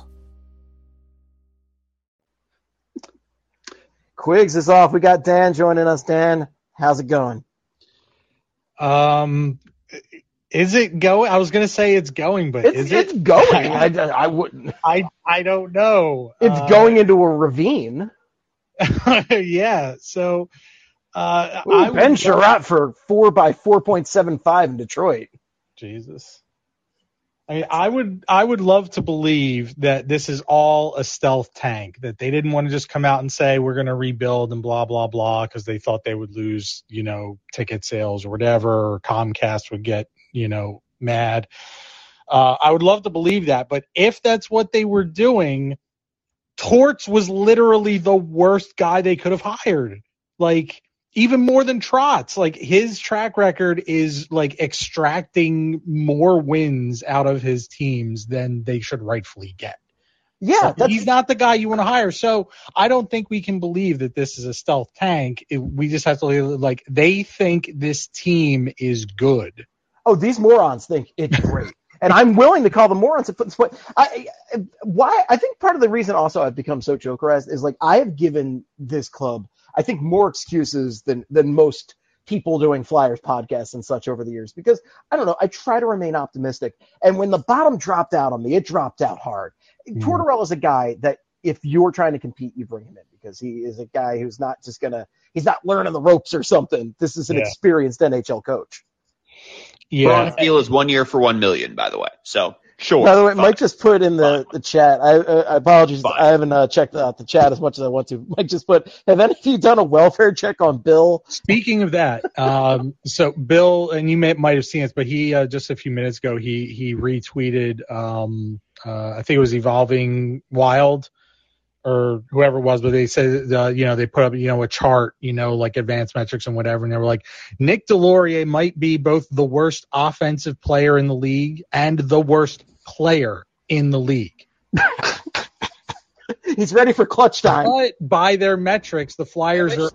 Quigs is off. We got Dan joining us. Dan, how's it going? Is it going? I was going to say it's going, but is it? It's going. I wouldn't. I don't know. It's going into a ravine. Yeah. So, Ben Sherratt for 4 by 4.75 in Detroit. Jesus. I mean, I would love to believe that this is all a stealth tank, that they didn't want to just come out and say we're going to rebuild and blah, blah, blah, because they thought they would lose, ticket sales or whatever, or Comcast would get, mad. I would love to believe that. But if that's what they were doing, Torts was literally the worst guy they could have hired. Like, even more than Trotz. Like, his track record is like extracting more wins out of his teams than they should rightfully get. Yeah, so he's not the guy you want to hire. So I don't think we can believe that this is a stealth tank. We just have to they think this team is good. Oh, these morons think it's great. And I'm willing to call them morons at this point. I think part of the reason also I've become so Jokerized is I have given this club, I think, more excuses than most people doing Flyers podcasts and such over the years, because I don't know, I try to remain optimistic. And when the bottom dropped out on me, it dropped out hard. Tortorella is a guy that if you're trying to compete, you bring him in, because he is a guy who's not just he's not learning the ropes or something. This is an experienced NHL coach. Yeah. Braun Field is 1 year for $1 million, by the way. So Sure. By the way, fine. Mike just put in the chat. I apologize. Fine. I haven't checked out the chat as much as I want to. Mike just put, have any of you done a welfare check on Bill? Speaking of that, so Bill, and you might have seen it, but he just a few minutes ago he retweeted. I think it was Evolving Wild or whoever it was, but they said they put up a chart, like advanced metrics and whatever, and they were like, Nick Delorier might be both the worst offensive player in the league and the worst player in the league. He's ready for clutch time. But by their metrics, the Flyers are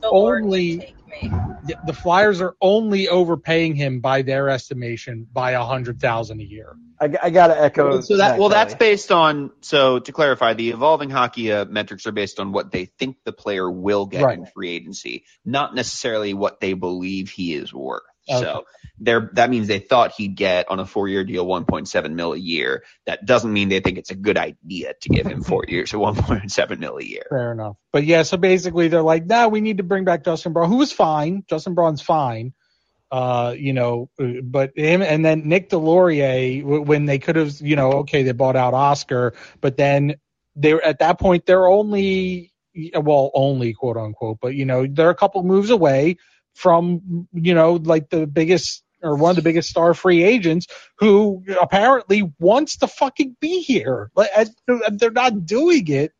only overpaying him by their estimation by $100,000 a year. I gotta echo. So that's based on. So to clarify, the Evolving Hockey metrics are based on what they think the player will get in free agency, not necessarily what they believe he is worth. Okay. So that means they thought he'd get on a 4-year deal $1.7 million a year. That doesn't mean they think it's a good idea to give him 4 years or $1.7 million a year. Fair enough. But yeah, so basically they're like, we need to bring back Justin Braun, who was fine. Justin Braun's fine. But him and then Nick Delorier, when they could have, they bought out Oscar, but then at that point they're only quote unquote, but they're a couple moves away from, like the biggest or one of the biggest star free agents who apparently wants to fucking be here. They're not doing it.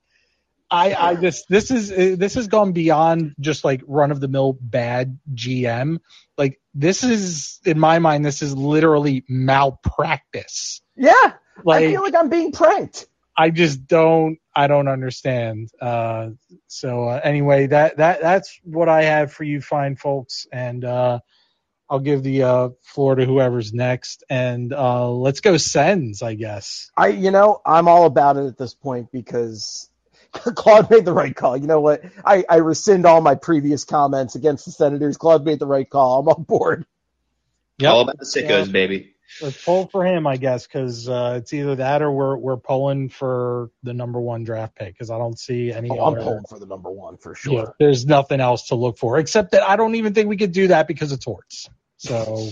This has gone beyond just like run of the mill bad GM. Like this is, in my mind, this is literally malpractice. Yeah. I feel like I'm being pranked. I don't understand. Anyway, that's what I have for you fine folks. And, I'll give the floor to whoever's next, and let's go Sens, I guess. I'm all about it at this point because Claude made the right call. You know what? I rescind all my previous comments against the Senators. Claude made the right call. I'm on board. Yep. All about the sickos, baby. Let's pull for him, I guess, because it's either that or we're pulling for the number 1 draft pick because I don't see any other. I'm pulling for the number 1 for sure. Yeah, there's nothing else to look for except that I don't even think we could do that because of Torts. So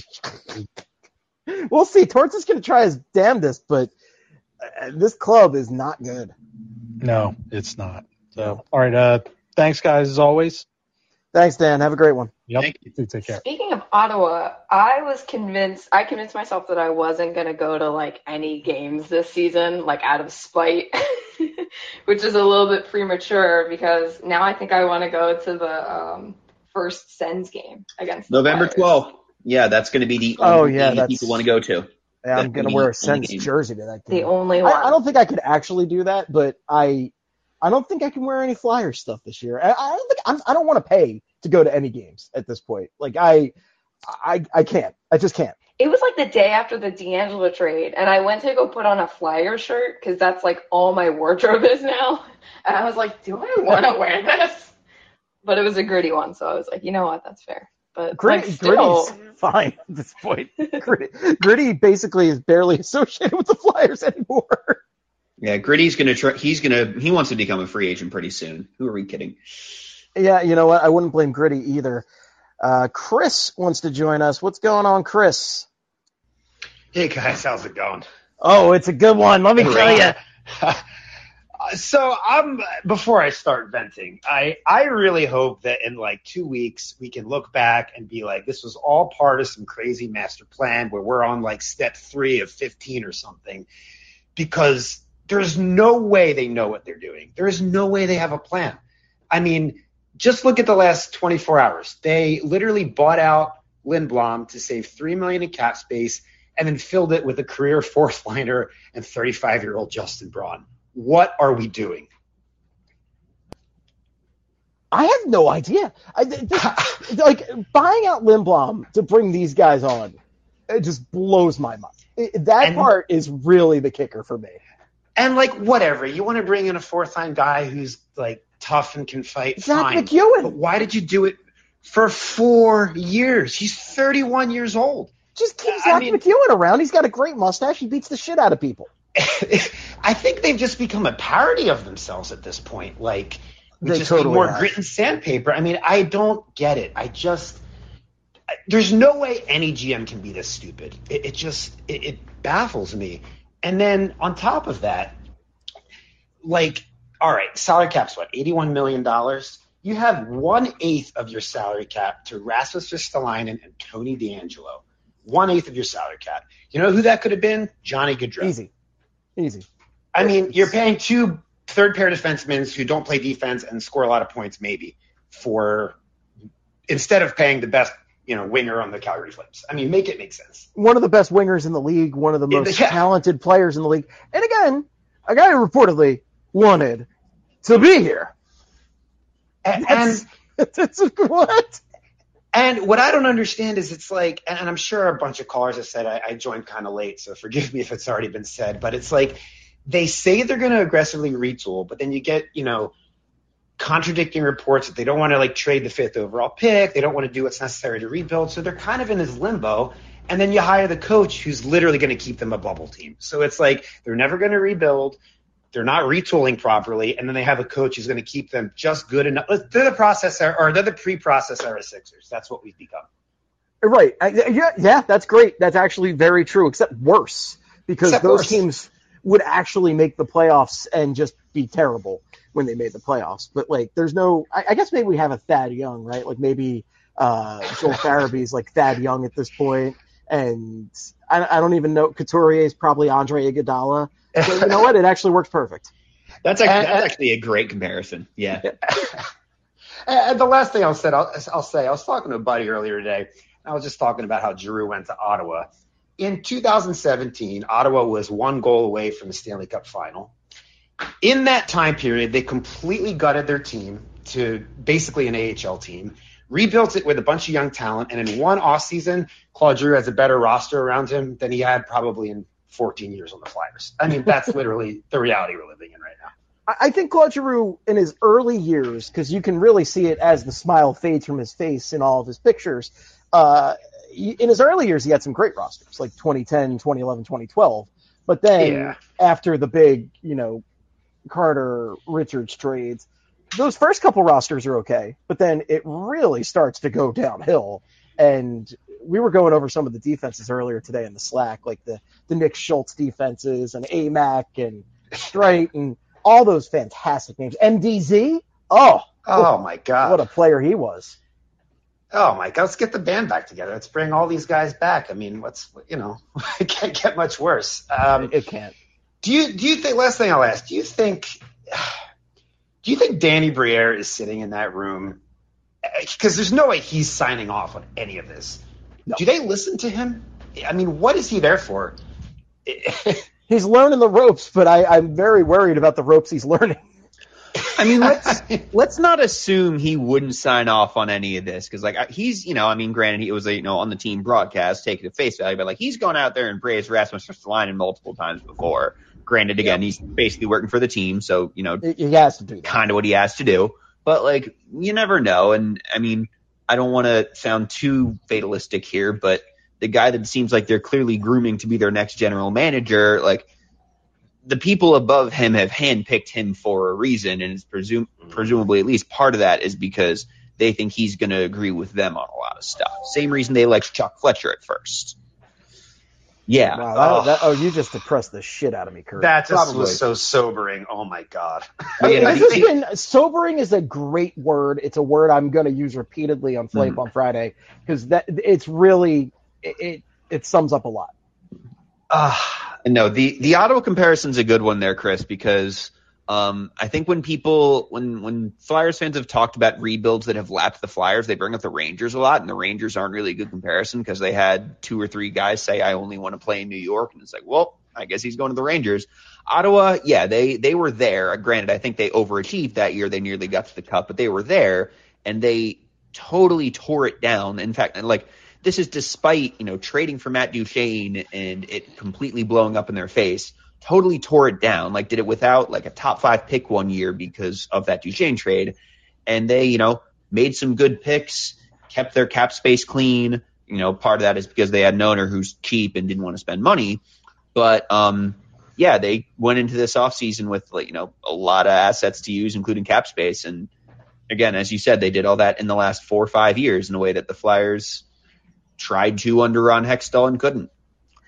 we'll see. Torts is going to try his damnedest, but this club is not good. No, it's not. So, all right. Thanks, guys, as always. Thanks, Dan. Have a great one. Yep. Thank you. Take care. Speaking of Ottawa, I convinced myself that I wasn't going to go to like any games this season, like out of spite, which is a little bit premature because now I think I want to go to the first Sens game against November 12th. Yeah, that's going to be the only game people want to go to. Yeah, I'm going to wear a Sens jersey to that game. The only one. I don't think I could actually do that, but I don't think I can wear any Flyers stuff this year. I don't want to pay to go to any games at this point. Like I can't. I just can't. It was like the day after the D'Angelo trade, and I went to go put on a Flyer shirt because that's like all my wardrobe is now. And I was like, do I want to wear this? But it was a Gritty one, so I was like, you know what, that's fair. But Gritty's fine at this point. Gritty basically is barely associated with the Flyers anymore. Yeah, Gritty's gonna try. He wants to become a free agent pretty soon. Who are we kidding? Yeah, you know what? I wouldn't blame Gritty either. Chris wants to join us. What's going on, Chris? Hey guys, how's it going? Oh, it's a good one. Let me tell you. So before I start venting, I really hope that in like 2 weeks we can look back and be like, this was all part of some crazy master plan where we're on like step 3 of 15 or something, because there's no way they know what they're doing. There is no way they have a plan. I mean, just look at the last 24 hours. They literally bought out Lindblom to save $3 million in cap space and then filled it with a career fourth liner and 35-year-old Justin Braun. What are we doing? I have no idea. Like buying out Lindblom to bring these guys on, it just blows my mind. That part is really the kicker for me. And like whatever, you want to bring in a fourth-line guy who's like tough and can fight. Zach fine. McEwen. But why did you do it for 4 years? He's 31 years old. Just keep Zach McEwen around. He's got a great mustache. He beats the shit out of people. I think they've just become a parody of themselves at this point. Like, They just totally more have. grit and sandpaper. I mean, I don't get it. There's no way any GM can be this stupid. It baffles me. And then on top of that, like, all right, salary cap's what, $81 million? You have 1/8 of your salary cap to Rasmus Ristolainen and Tony DeAngelo. 1/8 of your salary cap. You know who that could have been? Johnny Gaudreau. Easy. I mean, you're paying 2 third-pair defensemen who don't play defense and score a lot of points, maybe, instead of paying the best, winger on the Calgary Flames. I mean, make it make sense. One of the best wingers in the league, one of the most talented players in the league. And again, a guy who reportedly wanted to be here. And what? And what I don't understand is it's like, and I'm sure a bunch of callers have said I joined kind of late, so forgive me if it's already been said, but it's like they say they're going to aggressively retool, but then you get, contradicting reports that they don't want to trade the 5th overall pick. They don't want to do what's necessary to rebuild. So they're kind of in this limbo. And then you hire the coach who's literally going to keep them a bubble team. So it's like they're never going to rebuild. They're not retooling properly. And then they have a coach who's going to keep them just good enough. They're the pre-process era Sixers. That's what we've become. Right. Yeah, that's great. That's actually very true, except worse, because those teams would actually make the playoffs and just be terrible when they made the playoffs. But there's no, I guess maybe we have a Thad Young, right? Maybe Joel Farabee's Thad Young at this point. And I don't even know, Couturier is probably Andre Iguodala. So you know what? It actually works perfect. That's actually a great comparison. Yeah. And the last thing I'll say, I was talking to a buddy earlier today. I was just talking about how Giroux went to Ottawa. In 2017, Ottawa was 1 goal away from the Stanley Cup final. In that time period, they completely gutted their team to basically an AHL team, rebuilt it with a bunch of young talent, and in one offseason, Claude Giroux has a better roster around him than he had probably in 14 years on the Flyers. I mean, that's literally the reality we're living in right now. I think Claude Giroux, in his early years, because you can really see it as the smile fades from his face in all of his pictures, in his early years, he had some great rosters, like 2010, 2011, 2012. But then after the big, Carter-Richards trades, those first couple rosters are okay, but then it really starts to go downhill. And we were going over some of the defenses earlier today in the Slack, like the Nick Schultz defenses and AMAC and Streit and all those fantastic names. MDZ? Oh my God. What a player he was. Oh my God, let's get the band back together. Let's bring all these guys back. I mean, it can't get much worse. It can't. Do you think, last thing I'll ask, do you think Danny Briere is sitting in that room? Because there's no way he's signing off on any of this. No. Do they listen to him? I mean, what is he there for? He's learning the ropes, but I'm very worried about the ropes he's learning. I mean, let's not assume he wouldn't sign off on any of this, because he's, granted he was on the team broadcast, taking it face value, but he's gone out there and praised Rasmus Ristolainen multiple times before. Granted, again, he's basically working for the team, so he has to do that. Kind of what he has to do. But you never know, and I mean, I don't want to sound too fatalistic here, but the guy that seems like they're clearly grooming to be their next general manager, the people above him have handpicked him for a reason, and it's presumably at least part of that is because they think he's going to agree with them on a lot of stuff. Same reason they liked Chuck Fletcher at first. Yeah. Wow, you just depressed the shit out of me, Kurt. That just was so sobering. Oh, my God. Sobering is a great word. It's a word I'm going to use repeatedly on Flape on Friday, because it's really it sums up a lot. No, the Ottawa comparison's a good one there, Chris, because I think when Flyers fans have talked about rebuilds that have lapped the Flyers, they bring up the Rangers a lot, and the Rangers aren't really a good comparison because they had 2 or 3 guys say, I only want to play in New York, and it's like, well, I guess he's going to the Rangers. Ottawa, yeah, they were there. Granted, I think they overachieved that year. They nearly got to the Cup, but they were there, and they totally tore it down. In fact, this is despite, trading for Matt Duchene and it completely blowing up in their face. Totally tore it down. Did it without a top 5 pick one year because of that Duchene trade. And they, made some good picks, kept their cap space clean. Part of that is because they had an owner who's cheap and didn't want to spend money. But, they went into this offseason with, a lot of assets to use, including cap space. And again, as you said, they did all that in the last 4 or 5 years in a way that the Flyers tried to under Ron Hextall and couldn't.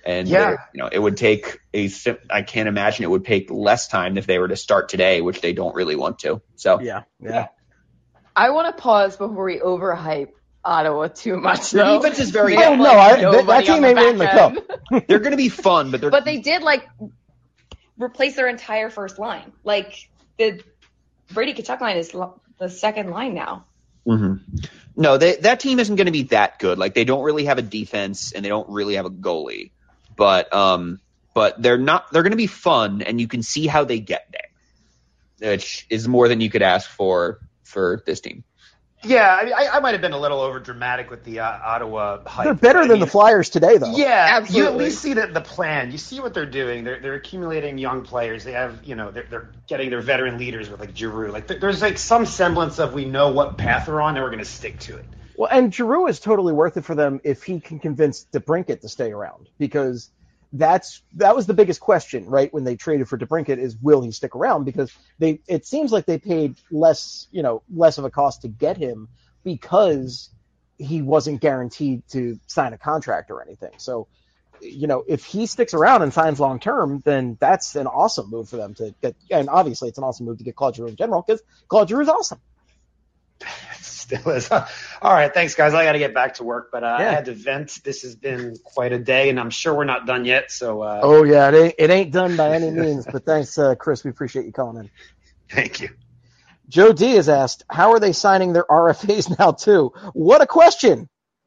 And Yeah. it would take I can't imagine it would take less time if they were to start today, which they don't really want to. So Yeah. I want to pause before we overhype Ottawa too much. Their though. defense is very They good. have, that nobody team on ain't winning the back cup. end. They're going to be fun, But they did replace their entire first line. Like the Brady Tkachuk line is the second line now. Mm-hmm. No, that team isn't going to be that good. Like they don't really have a defense and they don't really have a goalie, but they're going to be fun, and you can see how they get there, which is more than you could ask for this team. Yeah, I mean, I might have been a little over dramatic with the Ottawa hype. They're better than the Flyers today, though. Yeah, Absolutely. you at least see the plan. You see what they're doing. They're accumulating young players. They have, they're getting their veteran leaders with like Giroux. Like there's like some semblance of we know what path we're on and we're going to stick to it. Well, and Giroux is totally worth it for them if he can convince DeBrincat to stay around, because that was the biggest question, right? When they traded for DeBrincat, is will he stick around? Because it seems like they paid less of a cost to get him because he wasn't guaranteed to sign a contract or anything. So, if he sticks around and signs long term, then that's an awesome move for them to get. And obviously, it's an awesome move to get Claude Giroux in general, because Claude Giroux is awesome. Still is. All right, thanks, guys. I got to get back to work, but I had to vent. This has been quite a day, and I'm sure we're not done yet. So. Oh yeah, it ain't done by any means. But thanks, Chris. We appreciate you calling in. Thank you. Joe D has asked, how are they signing their RFAs now too? What a question.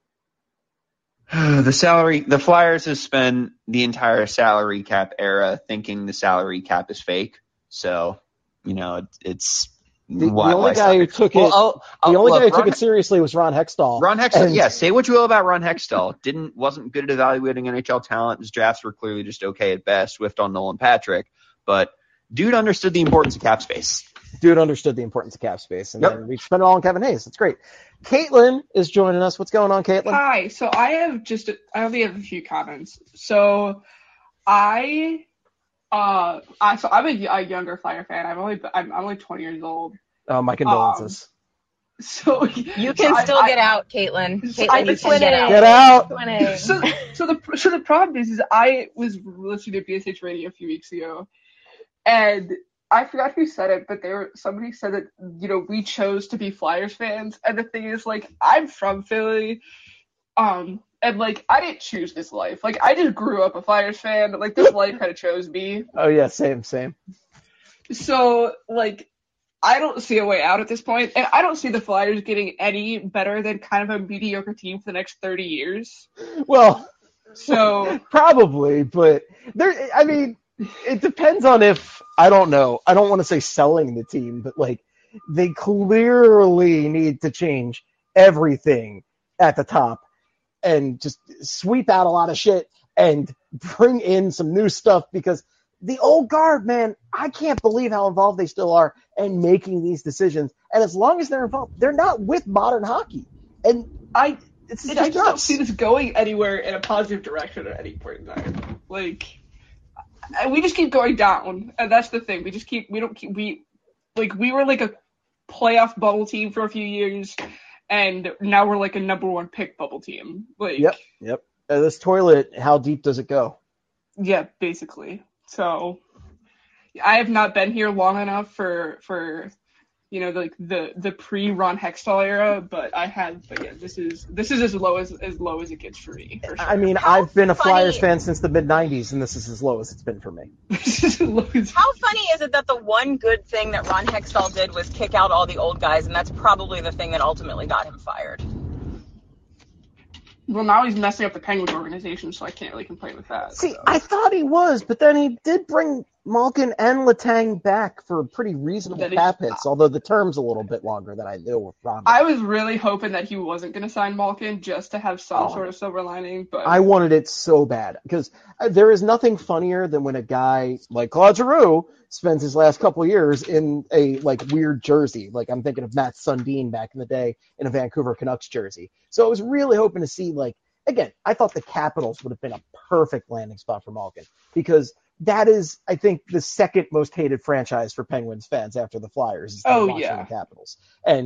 The Flyers have spent the entire salary cap era thinking the salary cap is fake. So, it's the only guy who took it seriously was Ron Hextall. Ron Hextall, say what you will about Ron Hextall. Wasn't good at evaluating NHL talent. His drafts were clearly just okay at best, whiffed on Nolan Patrick. But dude understood the importance of cap space. And then we spent it all on Kevin Hayes. That's great. Caitlin is joining us. What's going on, Caitlin? Hi. So I only have a few comments. So I'm a younger Flyer fan. I'm only 20 years old. Oh, my condolences. So you can still get out, Caitlin. I can get out. Get out. So the problem is I was listening to BSH Radio a few weeks ago, and I forgot who said it, but somebody said that we chose to be Flyers fans, and the thing is, I'm from Philly, and I didn't choose this life. I just grew up a Flyers fan. This life kind of chose me. Oh yeah, same. So I don't see a way out at this point, and I don't see the Flyers getting any better than kind of a mediocre team for the next 30 years. Well, so probably, but it depends on if, I don't know. I don't want to say selling the team, but they clearly need to change everything at the top and just sweep out a lot of shit and bring in some new stuff, because the old guard, man, I can't believe how involved they still are in making these decisions. And as long as they're involved, they're not with modern hockey. And I just don't see this going anywhere in a positive direction at any point in time. And we just keep going down, and that's the thing. We were a playoff bubble team for a few years, and now we're a number one pick bubble team. Yep. This toilet, how deep does it go? Yeah, basically. So I have not been here long enough for the pre-Ron Hextall era, but I have. But yeah, this is as low as it gets for me. For sure. I mean, I've been a Flyers fan since the mid-'90s, and this is as low as it's been for me. How funny is it that the one good thing that Ron Hextall did was kick out all the old guys, and that's probably the thing that ultimately got him fired? Well, now he's messing up the Penguins organization, so I can't really complain with that. See, I thought he was, but then he did bring Malkin and Letang back for pretty reasonable cap hits, although the term's a little bit longer than I knew with Ron. I was really hoping that he wasn't going to sign Malkin just to have some sort of silver lining, but I wanted it so bad, because there is nothing funnier than when a guy like Claude Giroux spends his last couple of years in a weird jersey. I'm thinking of Matt Sundin back in the day in a Vancouver Canucks jersey. So I was really hoping to see, again, I thought the Capitals would have been a perfect landing spot for Malkin, because that is, I think, the second most hated franchise for Penguins fans after the Flyers is the Washington Capitals. And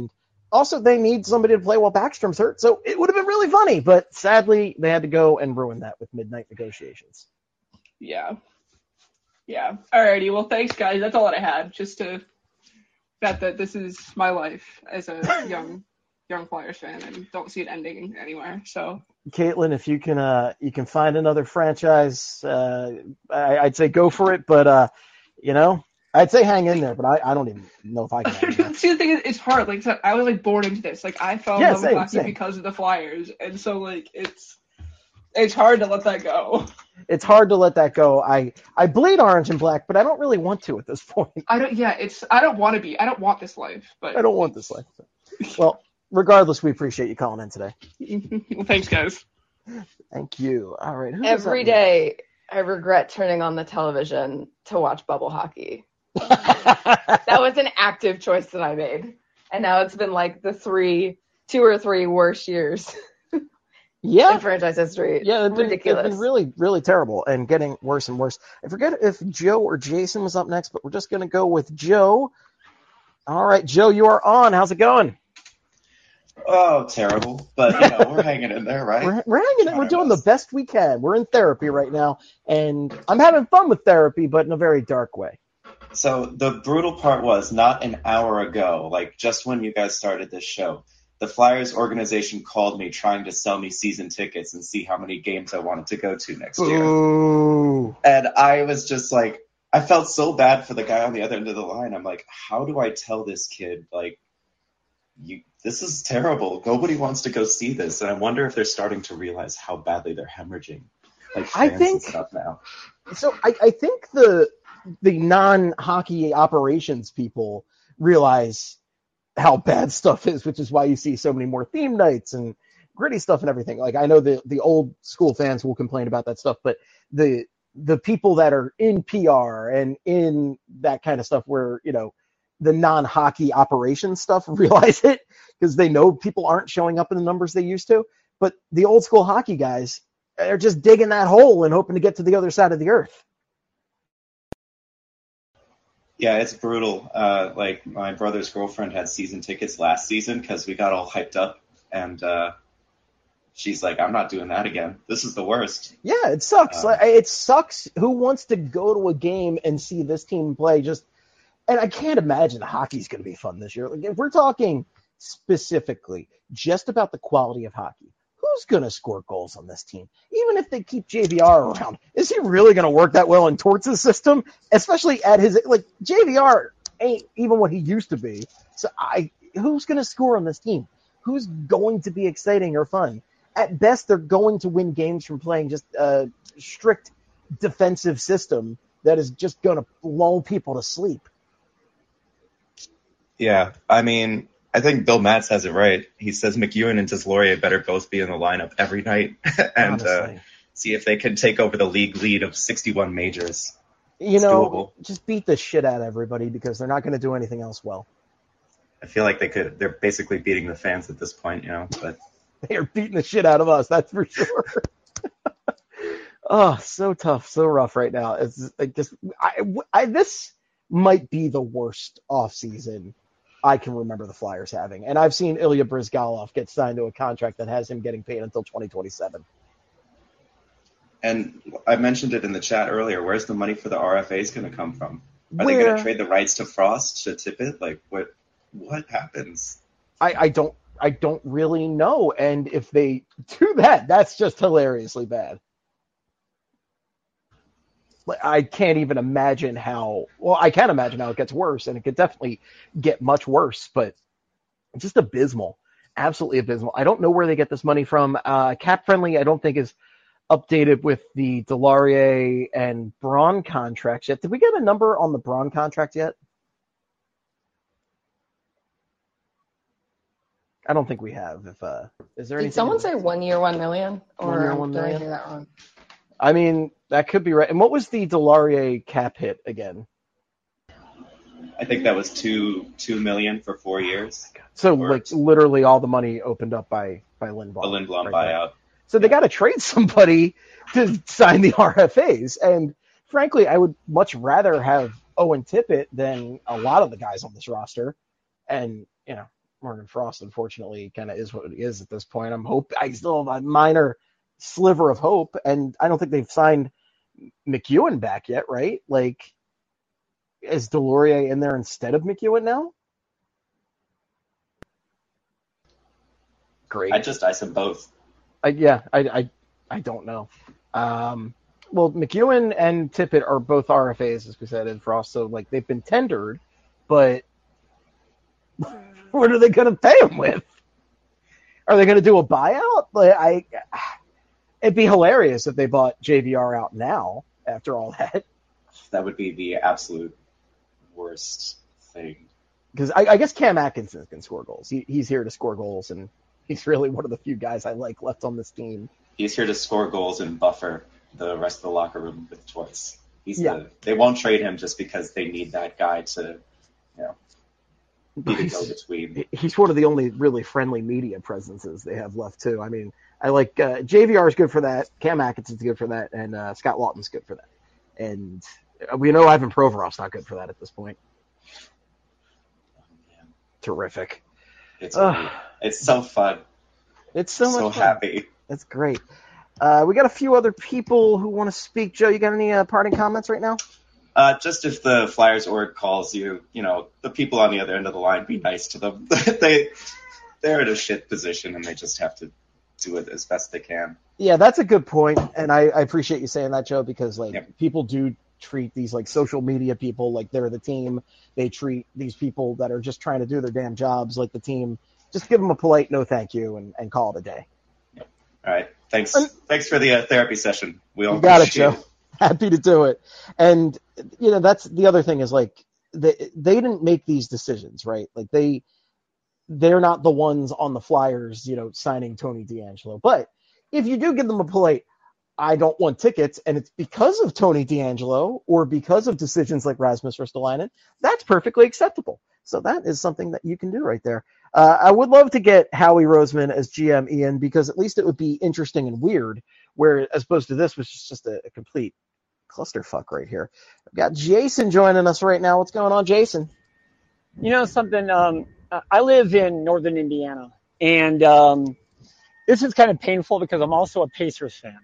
Also, they need somebody to play while Backstrom's hurt, so it would have been really funny. But sadly, they had to go and ruin that with midnight negotiations. Yeah. Alrighty. Well, thanks, guys. That's all that I had. Just to that this is my life as a young Flyers fan, and don't see it ending anywhere. So, Caitlin, if you can find another franchise, I'd say go for it. But I'd say hang in there. But I don't even know if I can. Hang in there. See, the thing is, it's hard. Like, so I was like born into this. Like, I fell in love with hockey because of the Flyers, and so like it's hard to let that go. It's hard to let that go. I bleed orange and black, but I don't really want to at this point. I don't want to be. I don't want this life. But I don't want this life. Well, regardless, we appreciate you calling in today. Well, thanks, guys. Thank you. All right. Every day, I regret turning on the television to watch bubble hockey. That was an active choice that I made, and now it's been like the 2 or 3 worst years. In franchise history. Yeah, ridiculous. It's been really, really terrible and getting worse and worse. I forget if Joe or Jason was up next, but we're just going to go with Joe. All right, Joe, you are on. How's it going? Oh, terrible. But, we're hanging in there, right? We're hanging in. We're doing the best we can. We're in therapy right now, and I'm having fun with therapy, but in a very dark way. So the brutal part was not an hour ago, like just when you guys started this show, the Flyers organization called me trying to sell me season tickets and see how many games I wanted to go to next year. Ooh. And I was just like, I felt so bad for the guy on the other end of the line. I'm like, how do I tell this kid, like, this is terrible. Nobody wants to go see this. And I wonder if they're starting to realize how badly they're hemorrhaging. Like, fans and stuff now. So I think the non-hockey operations people realize how bad stuff is, which is why you see so many more theme nights and gritty stuff and everything. Like, I know the old school fans will complain about that stuff, but the people that are in PR and in that kind of stuff where, the non-hockey operations stuff realize it because they know people aren't showing up in the numbers they used to. But the old school hockey guys are just digging that hole and hoping to get to the other side of the earth. Yeah, it's brutal. Like, my brother's girlfriend had season tickets last season because we got all hyped up, and she's like, I'm not doing that again. This is the worst. Yeah, it sucks. It sucks. Who wants to go to a game and see this team play? And I can't imagine hockey's going to be fun this year. Like, if we're talking specifically just about the quality of hockey, who's going to score goals on this team? Even if they keep JVR around, is he really going to work that well in Torts' system? Especially at his, JVR ain't even what he used to be. So who's going to score on this team? Who's going to be exciting or fun? At best, they're going to win games from playing just a strict defensive system that is just going to lull people to sleep. Yeah, I mean, I think Bill Matz has it right. He says McEwen and Deslauriers better both be in the lineup every night and see if they can take over the league lead of 61 majors. It's doable. Just beat the shit out of everybody because they're not going to do anything else well. I feel like they're basically beating the fans at this point, but they are beating the shit out of us, that's for sure. Oh, so tough, so rough right now. It's like this might be the worst offseason I can remember the Flyers having. And I've seen Ilya Bryzgalov get signed to a contract that has him getting paid until 2027. And I mentioned it in the chat earlier. Where's the money for the RFAs going to come from? Are they going to trade the rights to Frost, to Tippett? Like, what happens? I don't really know. And if they do that, that's just hilariously bad. I can't even imagine I can imagine how it gets worse, and it could definitely get much worse, but it's just abysmal. Absolutely abysmal. I don't know where they get this money from. Cap Friendly, I don't think, is updated with the Deslauriers and Braun contracts yet. Did we get a number on the Braun contract yet? I don't think we have. Is there anything? Did someone say 1 year, $1 million? Or 1 year, $1 million? Did I hear that wrong? I mean, that could be right. And what was the Deslauriers cap hit again? I think that was $2 million for 4 years. So literally all the money opened up by Lindblom. The Lindblom buyout. So they got to trade somebody to sign the RFAs. And frankly, I would much rather have Owen Tippett than a lot of the guys on this roster. And Morgan Frost, unfortunately, kind of is what it is at this point. I still have a minor sliver of hope, and I don't think they've signed McEwen back yet, right? Like, is Delorier in there instead of McEwen now? Great. I'd just ice them both. I don't know. Well, McEwen and Tippett are both RFAs, as we said, in Frost, so like they've been tendered, but what are they going to pay them with? Are they going to do a buyout? Like, it'd be hilarious if they bought JVR out now after all that. That would be the absolute worst thing. Because I guess Cam Atkinson can score goals. He's here to score goals, and he's really one of the few guys I like left on this team. He's here to score goals and buffer the rest of the locker room with choice. They won't trade him just because they need that guy to, be the go-between. He's one of the only really friendly media presences they have left, too. I mean, I like JVR is good for that. Cam Atkinson's good for that, and Scott Lawton's good for that. And we know Ivan Provorov's not good for that at this point. Terrific. It's so fun. It's so much fun. Happy. That's great. We got a few other people who want to speak. Joe, you got any parting comments right now? Just if the Flyers org calls you, the people on the other end of the line, be nice to them. They're in a shit position, and they just have to do it as best they can. Yeah, that's a good point, and I appreciate you saying that, Joe, because people do treat these social media people like they're the team. They treat these people that are just trying to do their damn jobs like the team. Just give them a polite no thank you and call it a day. All right. Thanks for the therapy session. We all got it, Joe. Happy to do it. And, that's the other thing is they didn't make these decisions, right? Like they're not the ones on the Flyers, signing Tony DeAngelo. But if you do give them a polite, I don't want tickets, and it's because of Tony DeAngelo or because of decisions like Rasmus Ristolainen, that's perfectly acceptable. So that is something that you can do right there. I would love to get Howie Roseman as GM, Ian, because at least it would be interesting and weird, where as opposed to this, which is just a complete clusterfuck right here. I've got Jason joining us right now. What's going on, Jason? Something, I live in northern Indiana, and this is kind of painful because I'm also a Pacers fan.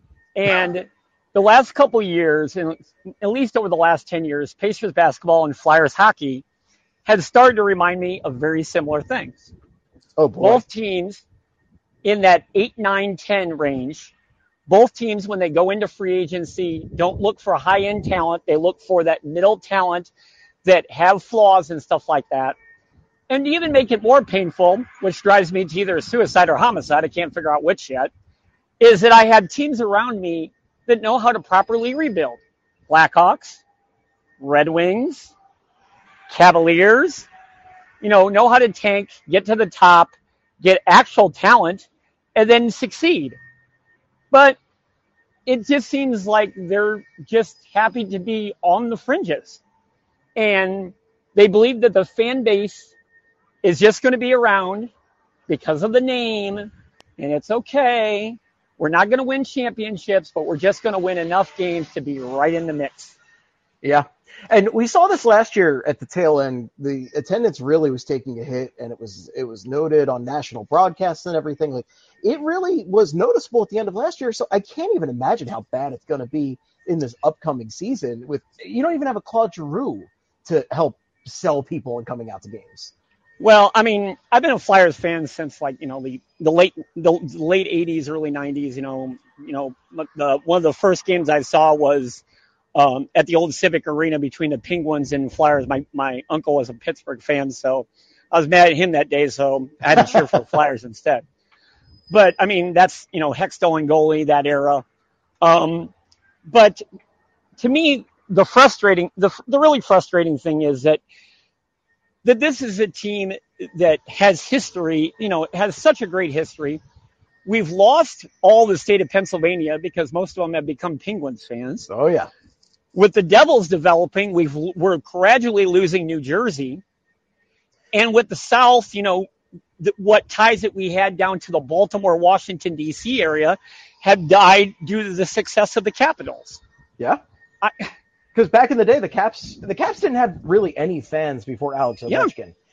And the last couple years, and at least over the last 10 years, Pacers basketball and Flyers hockey had started to remind me of very similar things. Oh, boy. Both teams in that 8, 9, 10 range, both teams, when they go into free agency, don't look for high-end talent. They look for that middle talent that have flaws and stuff like that. And to even make it more painful, which drives me to either suicide or homicide, I can't figure out which yet, is that I had teams around me that know how to properly rebuild. Blackhawks, Red Wings, Cavaliers, know how to tank, get to the top, get actual talent, and then succeed. But it just seems like they're just happy to be on the fringes. And they believe that the fan base is just going to be around because of the name, and it's okay. We're not going to win championships, but we're just going to win enough games to be right in the mix. Yeah. And we saw this last year at the tail end. The attendance really was taking a hit, and it was noted on national broadcasts and everything. Like, it really was noticeable at the end of last year. So I can't even imagine how bad it's going to be in this upcoming season. You don't even have a Claude Giroux to help sell people and coming out to games. Well, I mean, I've been a Flyers fan since the late 80s, early 90s. One of the first games I saw was at the old Civic Arena between the Penguins and Flyers. My uncle was a Pittsburgh fan, so I was mad at him that day, so I had to cheer for the Flyers instead. But I mean, that's Hextall and goalie, that era. But to me, the really frustrating thing is that this is a team that has history, has such a great history. We've lost all the state of Pennsylvania because most of them have become Penguins fans. Oh, yeah. With the Devils developing, we're gradually losing New Jersey. And with the South, what ties that we had down to the Baltimore, Washington, D.C. area have died due to the success of the Capitals. Yeah. Because back in the day, the Caps didn't have really any fans before Alex Ovechkin.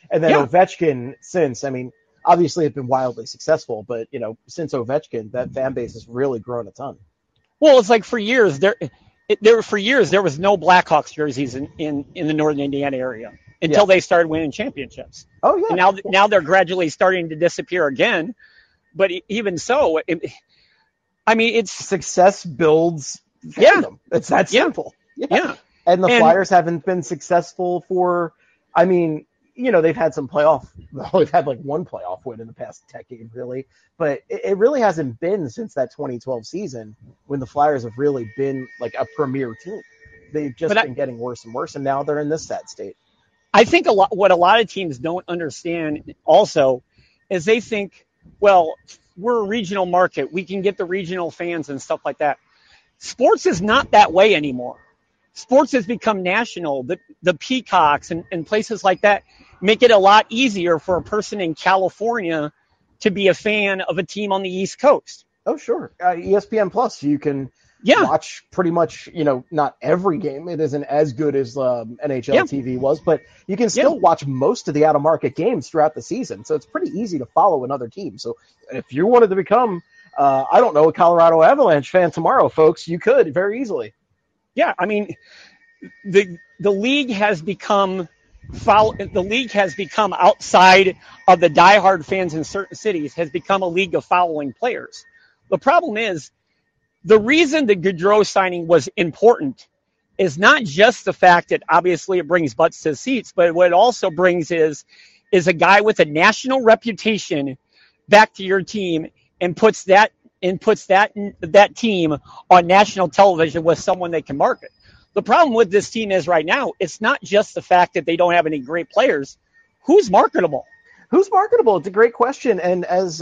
And then Yeah. Ovechkin, since, I mean, obviously have been wildly successful, but, since Ovechkin, that fan base has really grown a ton. Well, it's like for years there was no Blackhawks jerseys in the northern Indiana area until they started winning championships. Oh yeah. And now they're gradually starting to disappear again. But even so, it's success builds fandom. It's that simple. Yeah. And the Flyers haven't been successful for, they've had some they've had like one playoff win in the past decade, really. But it really hasn't been since that 2012 season when the Flyers have really been like a premier team. They've just been getting worse and worse, and now they're in this sad state. I think what a lot of teams don't understand also is they think, well, we're a regional market. We can get the regional fans and stuff like that. Sports is not that way anymore. Sports has become national. The Peacocks and places like that make it a lot easier for a person in California to be a fan of a team on the East Coast. Oh, sure. ESPN Plus, you can watch pretty much, not every game. It isn't as good as NHL TV was, but you can still watch most of the out-of-market games throughout the season. So it's pretty easy to follow another team. So if you wanted to become, a Colorado Avalanche fan tomorrow, folks, you could very easily. Yeah, the league has become outside of the diehard fans in certain cities, has become a league of following players. The problem is, the reason the Gaudreau signing was important is not just the fact that obviously it brings butts to seats, but what it also brings is a guy with a national reputation back to your team and puts that team on national television with someone they can market. The problem with this team is right now, it's not just the fact that they don't have any great players. Who's marketable? Who's marketable? It's a great question. And as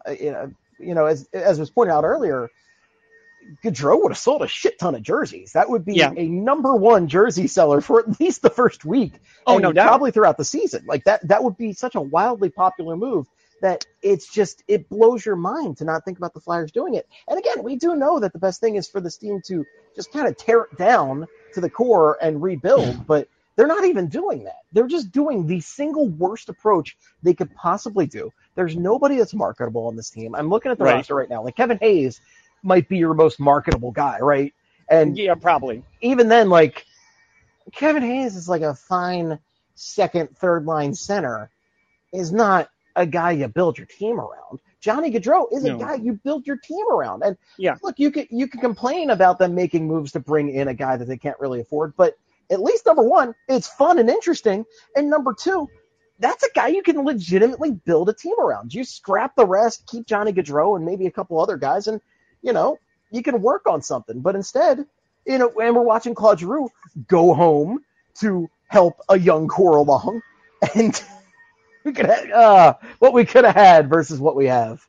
was pointed out earlier, Gaudreau would have sold a shit ton of jerseys. That would be a number one jersey seller for at least the first week. Oh, and no doubt. Probably throughout the season. Like that would be such a wildly popular move that it blows your mind to not think about the Flyers doing it. And again, we do know that the best thing is for this team to just kind of tear it down to the core and rebuild, but they're not even doing that. They're just doing the single worst approach they could possibly do. There's nobody that's marketable on this team. I'm looking at the roster right now. Like Kevin Hayes might be your most marketable guy, right? And yeah, probably. Even then, like Kevin Hayes is like a fine second, third line center, is not a guy you build your team around. Johnny Gaudreau is a guy you build your team around. And look, you can complain about them making moves to bring in a guy that they can't really afford, but at least number one, it's fun and interesting. And number two, that's a guy you can legitimately build a team around. You scrap the rest, keep Johnny Gaudreau and maybe a couple other guys, and you can work on something. But instead, and we're watching Claude Giroux go home to help a young core along, and we could have, what we could have had versus what we have.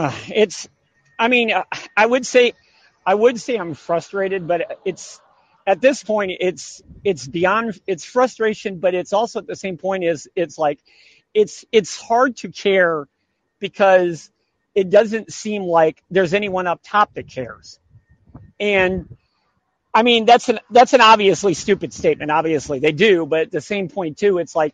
I would say I'm frustrated, but it's at this point it's beyond it's frustration, but it's also at the same point it's hard to care because it doesn't seem like there's anyone up top that cares. And that's an obviously stupid statement. Obviously they do, but at the same point too, it's like,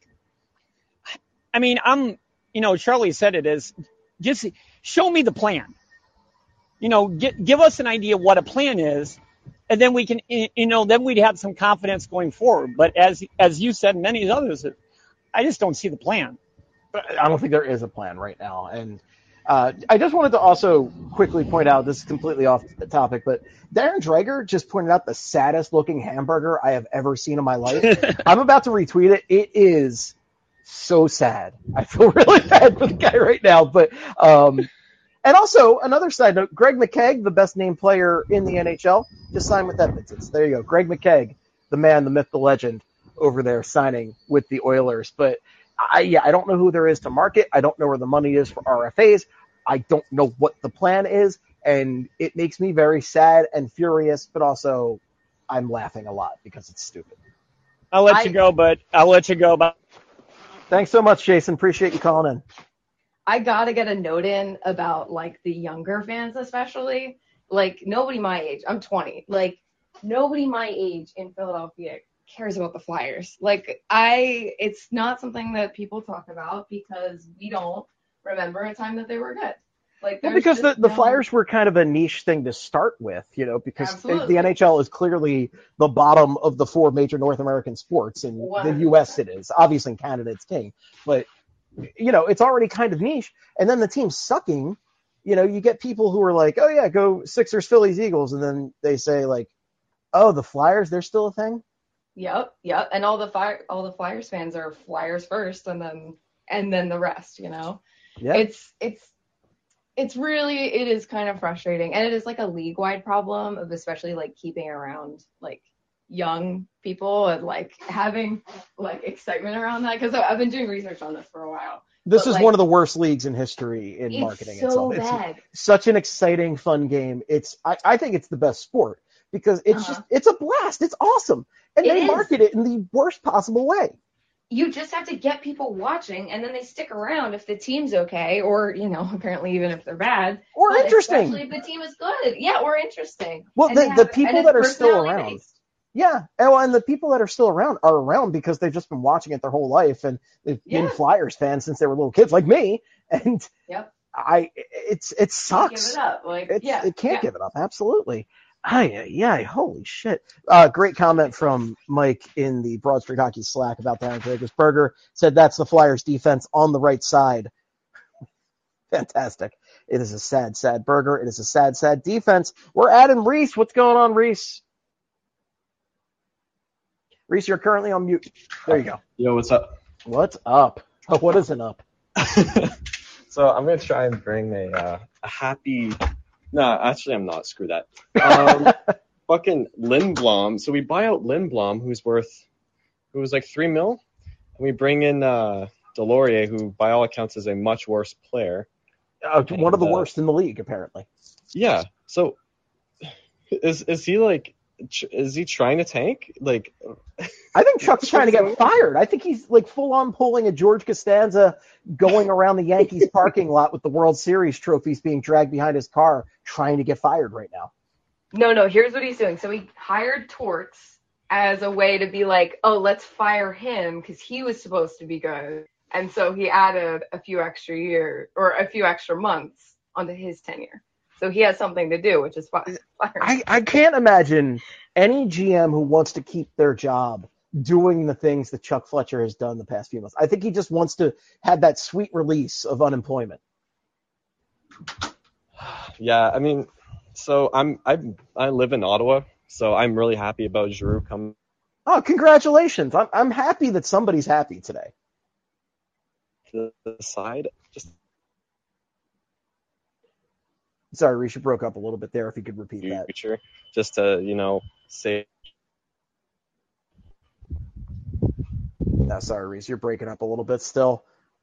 Charlie said it is just show me the plan. Give us an idea what a plan is, and then we can, then we'd have some confidence going forward. But as you said, and many others, I just don't see the plan. I don't think there is a plan right now. And I just wanted to also quickly point out, this is completely off the topic, but Darren Dreger just pointed out the saddest looking hamburger I have ever seen in my life. I'm about to retweet it. It is so sad. I feel really bad for the guy right now. But and also, another side note, Greg McKegg, the best named player in the NHL, just signed with Edmonton. So there you go. Greg McKegg, the man, the myth, the legend over there signing with the Oilers. But I don't know who there is to market. I don't know where the money is for RFAs. I don't know what the plan is. And it makes me very sad and furious, but also I'm laughing a lot because it's stupid. I'll let you go, but thanks so much, Jason. Appreciate you calling in. I gotta get a note in about like the younger fans, especially like nobody my age. I'm 20. Like nobody my age in Philadelphia cares about the Flyers? Like, it's not something that people talk about because we don't remember a time that they were good. Like, Well, there's because just the no- Flyers were kind of a niche thing to start with, because Absolutely. the NHL is clearly the bottom of the 4 major North American sports. In the 100%. U.S. it is. Obviously in Canada it's king. But, it's already kind of niche. And then the team's sucking. You get people who are like, oh, yeah, go Sixers, Phillies, Eagles. And then they say, like, oh, the Flyers, they're still a thing? Yep. And all the Flyers fans are Flyers first, and then the rest. Yeah. It is kind of frustrating, and it is like a league-wide problem of especially like keeping around like young people and like having like excitement around that, because I've been doing research on this for a while. This But, is like, one of the worst leagues in history in it's marketing so itself. bad. It's such an exciting, fun game. I think it's the best sport because it's a blast. It's awesome. And they market it in the worst possible way. You just have to get people watching, and then they stick around if the team's okay, or apparently even if they're bad, or but interesting. Especially if the team is good, or interesting. Well, And the people that are still around, personality-based. and the people that are still around are around because they've just been watching it their whole life, and they've been Flyers fans since they were little kids, like me. And it sucks. Give it up. It can't give it up. Absolutely. Holy shit. Great comment from Mike in the Broad Street Hockey Slack about the Aaron Vegas Burger. Said that's the Flyers defense on the right side. Fantastic. It is a sad, sad burger. It is a sad, sad defense. We're adding Reese. What's going on, Reese? Reese, you're currently on mute. There you go. Yo, what's up? What's up? Oh, what isn't up? So I'm going to try and bring a happy... No, actually, I'm not. Screw that. Fucking Lindblom. So we buy out Lindblom, who was like $3 million, and we bring in Delorier, who by all accounts is a much worse player. One of the worst in the league, apparently. Yeah. So is he like? Is he trying to tank? Like, I think Chuck's trying to get fired. I think he's like full on pulling a George Costanza, going around the Yankees parking lot with the World Series trophies being dragged behind his car, trying to get fired right now. No, here's what he's doing. So he hired Torts as a way to be like, oh, let's fire him because he was supposed to be good. And so he added a few extra months onto his tenure. So he has something to do, which is fire. I can't imagine any GM who wants to keep their job doing the things that Chuck Fletcher has done the past few months. I think he just wants to have that sweet release of unemployment. Yeah, I mean, so I live in Ottawa, so I'm really happy about Giroux coming. Oh, congratulations! I'm happy that somebody's happy today. To the side, just. Sorry, Reese, you broke up a little bit there. If you could repeat that. Future, just to say. No, sorry, Reese, you're breaking up a little bit still.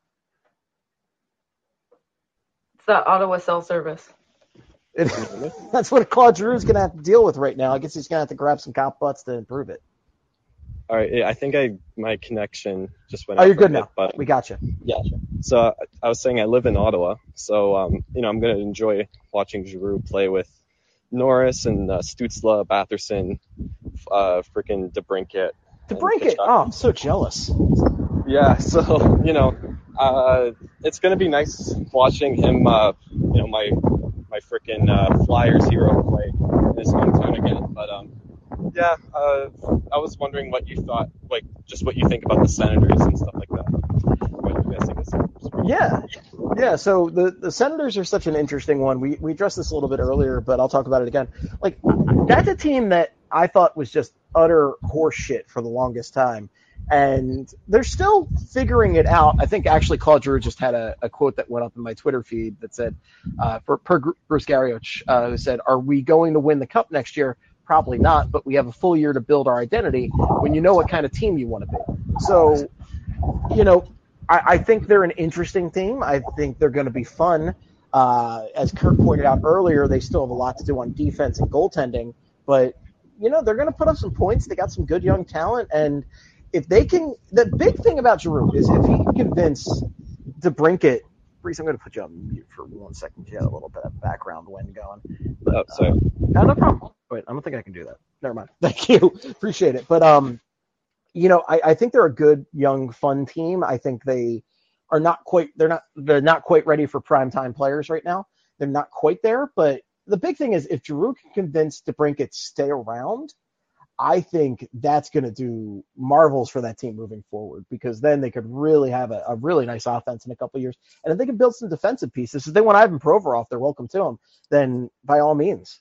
It's the Ottawa cell service. That's what Claude Giroux's going to have to deal with right now. I guess he's going to have to grab some cop butts to improve it. All right, I think my connection just went. Oh, out you're for a good bit, now. But, We got you. Yeah. So I was saying I live in Ottawa, so I'm going to enjoy watching Giroux play with Norris and Stützle, Batherson, freaking DeBrincat. DeBrincat. Oh, I'm so jealous. Yeah. So it's going to be nice watching him. My freaking Flyers hero play in his hometown again. But yeah, I was wondering what you thought, like just what you think about the Senators and stuff like that. What you guys think of the Senators? Yeah. So the Senators are such an interesting one. We addressed this a little bit earlier, but I'll talk about it again. Like, that's a team that I thought was just utter horseshit for the longest time. And they're still figuring it out. I think actually Claude Giroux just had a quote that went up in my Twitter feed that said, per Bruce Garrioch, who said, "Are we going to win the Cup next year? Probably not, but we have a full year to build our identity when you know what kind of team you want to be." So, I think they're an interesting team. I think they're going to be fun. As Kurt pointed out earlier, they still have a lot to do on defense and goaltending, but they're going to put up some points. They got some good young talent, and if they can, the big thing about Giroux is if he can convince DeBrincat. Reese, I'm going to put you on mute for 1 second. You had a little bit of background wind going. But, sorry. No problem. Wait, I don't think I can do that. Never mind. Thank you. Appreciate it. But I think they're a good, young, fun team. I think they are they're not quite ready for primetime players right now. They're not quite there, but the big thing is if Giroux can convince DeBrincat to stay around, I think that's going to do marvels for that team moving forward, because then they could really have a really nice offense in a couple of years. And if they can build some defensive pieces, if they want Ivan Provorov, they're welcome to him, then by all means.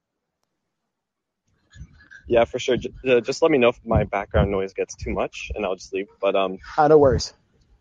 Yeah, for sure. Just let me know if my background noise gets too much, and I'll just leave. But no worries.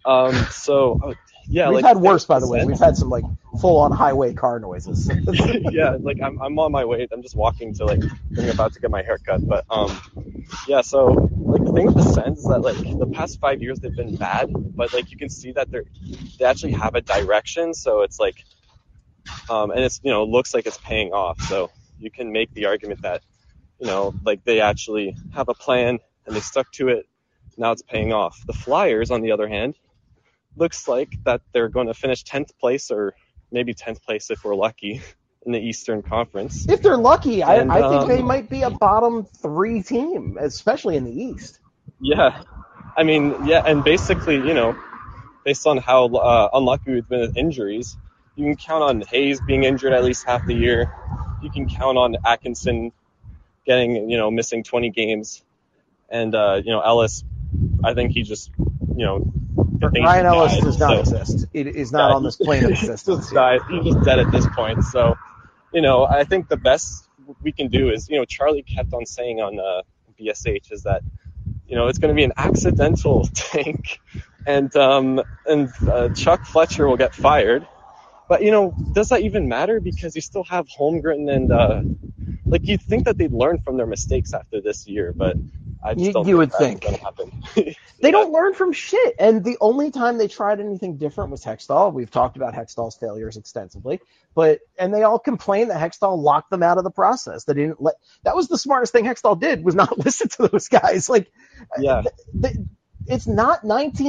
Yeah, we've had worse, by the way. We've had some full-on highway car noises. Yeah, I'm on my way. I'm just walking to I'm about to get my hair cut. But yeah. So the thing with the Sens is that the past 5 years they've been bad, but you can see that they actually have a direction. So it's and it's looks like it's paying off. So you can make the argument that they actually have a plan and they stuck to it. Now it's paying off. The Flyers, on the other hand, looks like that they're going to finish 10th place or maybe 10th place if we're lucky in the Eastern Conference. If they're lucky, I think they might be a bottom 3 team, especially in the East. Yeah. I mean, yeah, and basically, based on how unlucky we've been with injuries, you can count on Hayes being injured at least half the year. You can count on Atkinson getting, missing 20 games. And, Ellis, I think he just, Ryan Ellis does not exist. It is not on this plane of existence. He's just dead at this point. So, I think the best we can do is, Charlie kept on saying on BSH is that, it's going to be an accidental tank, and Chuck Fletcher will get fired. But, does that even matter? Because you still have Holmgren and, you'd think that they'd learn from their mistakes after this year, but I just don't you would think think. that's going to happen. They don't learn from shit. And the only time they tried anything different was Hextall. We've talked about Hextall's failures extensively, and they all complain that Hextall locked them out of the process. That was the smartest thing Hextall did, was not listen to those guys. Yeah. It's not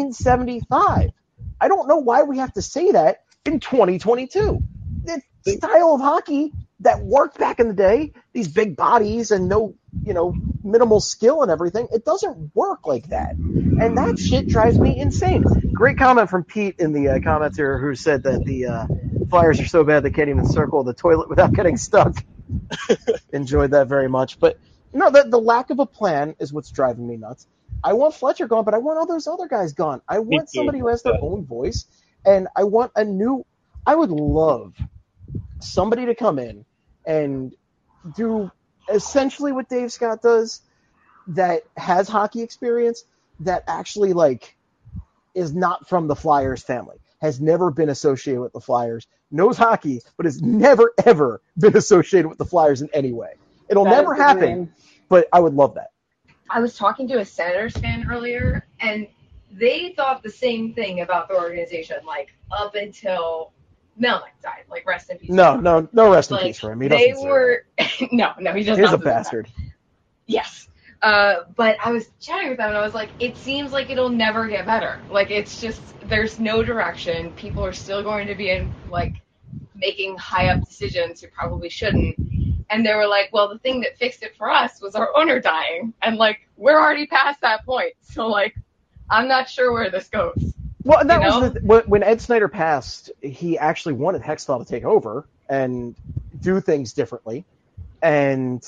1975. I don't know why we have to say that in 2022. The style of hockey that worked back in the day, these big bodies and no, minimal skill and everything, it doesn't work like that. And that shit drives me insane. Great comment from Pete in the comments here, who said that the Flyers are so bad they can't even circle the toilet without getting stuck. Enjoyed that very much. But no, the lack of a plan is what's driving me nuts. I want Fletcher gone, but I want all those other guys gone. I want somebody who has their own voice, and I want I would love somebody to come in and do essentially what Dave Scott does, that has hockey experience, that actually is not from the Flyers family, has never been associated with the Flyers, knows hockey, but has never, ever been associated with the Flyers in any way. It'll never happen, but I would love that. I was talking to a Senators fan earlier, and they thought the same thing about the organization, up until Melnick died. Rest in peace. No rest in peace for him. He doesn't no, he does He's not. a bastard. Yes. But I was chatting with them, and I was like, it seems like it'll never get better. It's just, there's no direction. People are still going to be making high-up decisions who probably shouldn't. And they were like, well, the thing that fixed it for us was our owner dying. And, we're already past that point. So, I'm not sure where this goes. Well, that was when Ed Snyder passed, he actually wanted Hextall to take over and do things differently. And,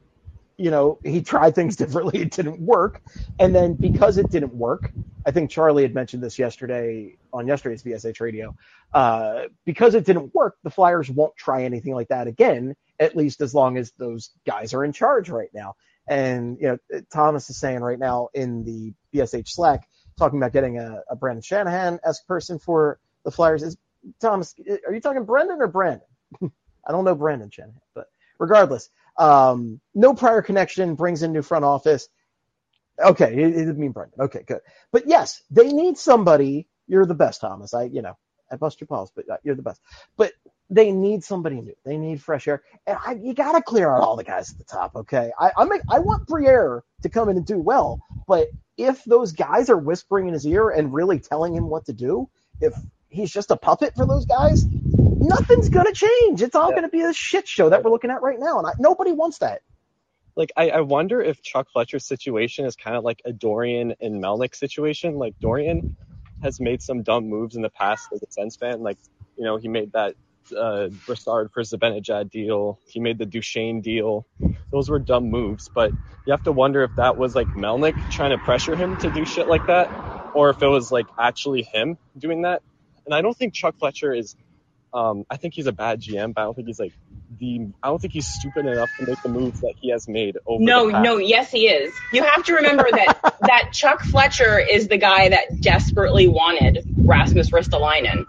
he tried things differently. It didn't work. And then because it didn't work, I think Charlie had mentioned this yesterday on yesterday's VSH radio, because it didn't work, the Flyers won't try anything like that again, at least as long as those guys are in charge right now. And, Thomas is saying right now in the VSH Slack, talking about getting a Brandon Shanahan-esque person for the Flyers. Thomas, are you talking Brendan or Brandon? I don't know Brandon Shanahan, but regardless, no prior connection, brings in new front office. Okay, it didn't mean Brendan. Okay, good. But yes, they need somebody. You're the best, Thomas. I bust your balls, but you're the best. But they need somebody new. They need fresh air. And you got to clear out all the guys at the top, okay? I want Briere to come in and do well, but if those guys are whispering in his ear and really telling him what to do, if he's just a puppet for those guys, nothing's going to change. It's all going to be a shit show that we're looking at right now, and nobody wants that. Like, I wonder if Chuck Fletcher's situation is kind of like a Dorian and Melnick situation. Like, Dorian has made some dumb moves in the past as a Sens fan. Like, you know, he made that Brassard for Zibanejad deal. He made the Duchesne deal. Those were dumb moves, but you have to wonder if that was like Melnick trying to pressure him to do shit like that, or if it was like actually him doing that. And I don't think Chuck Fletcher is. I think he's a bad GM, but I don't think he's like I don't think he's stupid enough to make the moves that he has made over. No, yes, he is. You have to remember that Chuck Fletcher is the guy that desperately wanted Rasmus Ristolainen,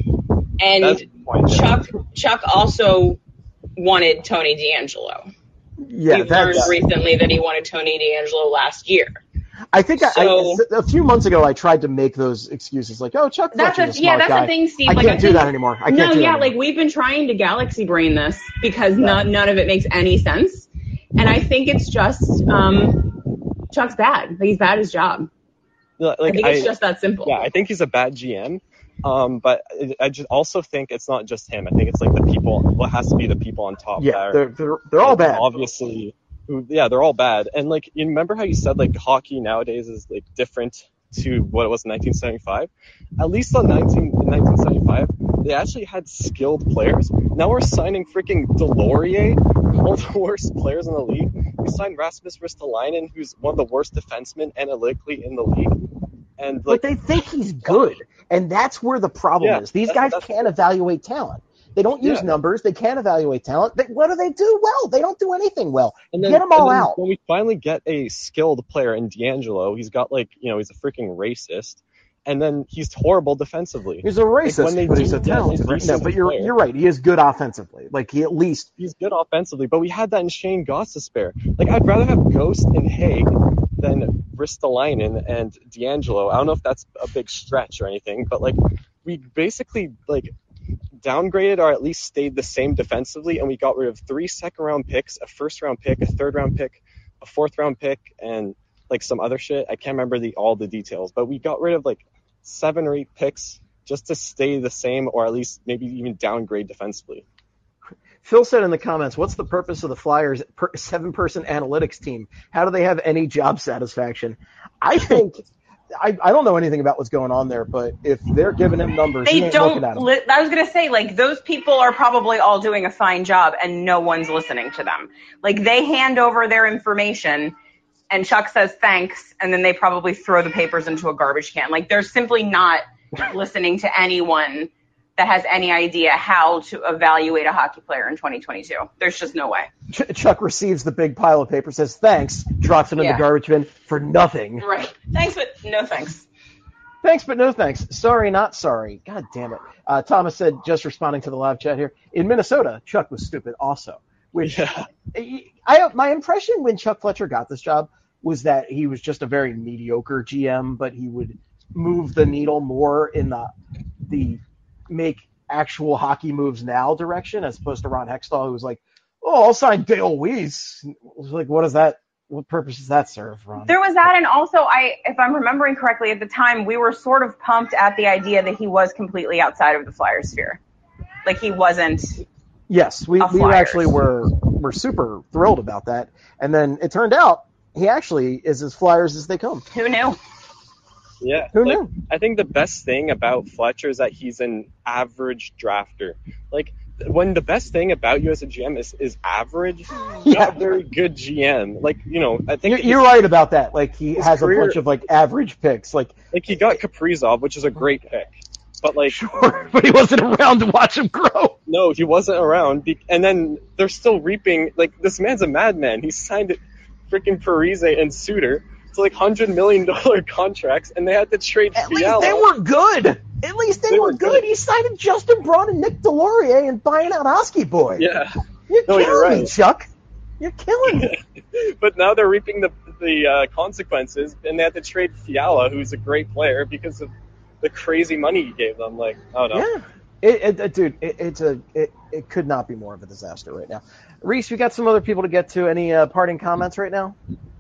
and Chuck also wanted Tony DeAngelo. Yeah, We've learned recently that he wanted Tony DeAngelo last year. I think a few months ago I tried to make those excuses like, oh, Chuck Fletcher's a smart guy. The thing, Steve. I can't do that anymore. Like we've been trying to galaxy brain this because none of it makes any sense, and I think it's just Chuck's bad. He's bad at his job. Like, I think it's just that simple. Yeah, I think he's a bad GM. But I just also think it's not just him. I think it's like the people. Well, it has to be the people on top. Yeah, that they're all bad. Obviously. Yeah, they're all bad. And like, you remember how you said like hockey nowadays is like different to what it was in 1975? At least in 1975, they actually had skilled players. Now we're signing freaking Delorier, one of the worst players in the league. We signed Rasmus Ristolainen, who's one of the worst defensemen analytically in the league. And like, but they think he's good, and that's where the problem is. These guys can't evaluate talent. They don't use numbers. They can't evaluate talent. What do they do well? They don't do anything well. Get them all out. When we finally get a skilled player in DeAngelo, he's got like, you know, he's a freaking racist, and then he's horrible defensively. He's a racist, but he's a talented. No, but you're right. He is good offensively. Like he's good offensively. But we had that in Shane Gostisbehere. Like, I'd rather have Ghost and Haig than Ristolainen and DeAngelo. I don't know if that's a big stretch or anything, but like, we basically like downgraded or at least stayed the same defensively, and we got rid of 3 second-round picks, a first-round pick, a third-round pick, a fourth-round pick, and like some other shit. I can't remember all the details, but we got rid of like 7 or 8 picks just to stay the same or at least maybe even downgrade defensively. Phil said in the comments, what's the purpose of the Flyers 7-person analytics team? How do they have any job satisfaction? I think I don't know anything about what's going on there, but if they're giving him numbers, he ain't looking at them. I was going to say, like, those people are probably all doing a fine job and no one's listening to them. Like, they hand over their information and Chuck says thanks, and then they probably throw the papers into a garbage can. Like, they're simply not listening to anyone that has any idea how to evaluate a hockey player in 2022. There's just no way. Chuck receives the big pile of paper, says thanks, drops it in the garbage bin for nothing. Right. Thanks, but no thanks. Thanks, but no thanks. Sorry, not sorry. God damn it. Thomas said, just responding to the live chat here, in Minnesota, Chuck was stupid also. Which my impression when Chuck Fletcher got this job was that he was just a very mediocre GM, but he would move the needle more in the make actual hockey moves now direction, as opposed to Ron Hextall, who was like, oh, I'll sign Dale Weiss. It was like, what purpose does that serve, Ron? There was that, and also, if I'm remembering correctly, at the time, we were sort of pumped at the idea that he was completely outside of the Flyers sphere. Like, he wasn't. Yes, we actually were super thrilled about that. And then it turned out he actually is as Flyers as they come. Who knew? Yeah. Who knew? I think the best thing about Fletcher is that he's an average drafter. Like, when the best thing about you as a GM is average, you're not a very good GM. Like, you know, I think you're right about that. Like, he has a bunch of like average picks. Like he got Kaprizov, which is a great pick. But like, sure, but he wasn't around to watch him grow. No, he wasn't around. And then they're still reaping. Like, this man's a madman. He signed freaking Parise and Suter to like $100 million contracts, and they had to trade Fiala. At least they were good. At least they were good. He signed Justin Braun and Nick Delorier and buying out Oski Boy. Yeah. You're killing me, Chuck. You're killing me. But now they're reaping the consequences, and they had to trade Fiala, who's a great player, because of the crazy money he gave them. Like, I don't know. Yeah. Dude, it could not be more of a disaster right now. Reese, we got some other people to get to. Any parting comments right now?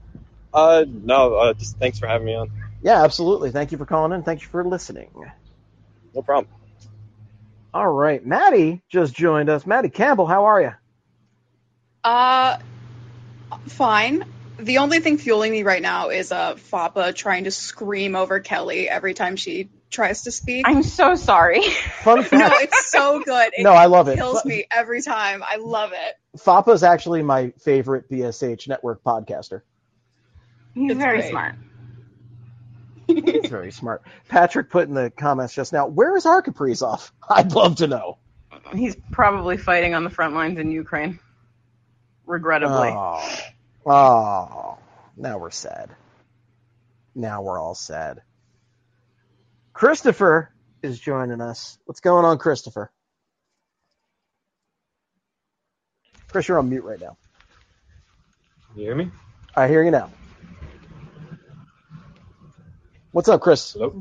No, just thanks for having me on. Yeah, absolutely. Thank you for calling in. Thank you for listening. No problem. All right. Maddie just joined us. Maddie Campbell, how are you? fine. The only thing fueling me right now is Fappa trying to scream over Kelly every time she tries to speak. I'm so sorry. Fun fact. No, it's so good. No, I love it. Kills me every time. I love it. Fappa's actually my favorite BSH network podcaster. He's It's very great. smart. He's very smart. Patrick put in the comments just now, where is our Kaprizov? I'd love to know. He's probably fighting on the front lines in Ukraine. Regrettably. Oh, now we're sad. Now we're all sad. Christopher is joining us. What's going on, Christopher? Chris, you're on mute right now. You hear me? I hear you now. What's up, Chris? Hello?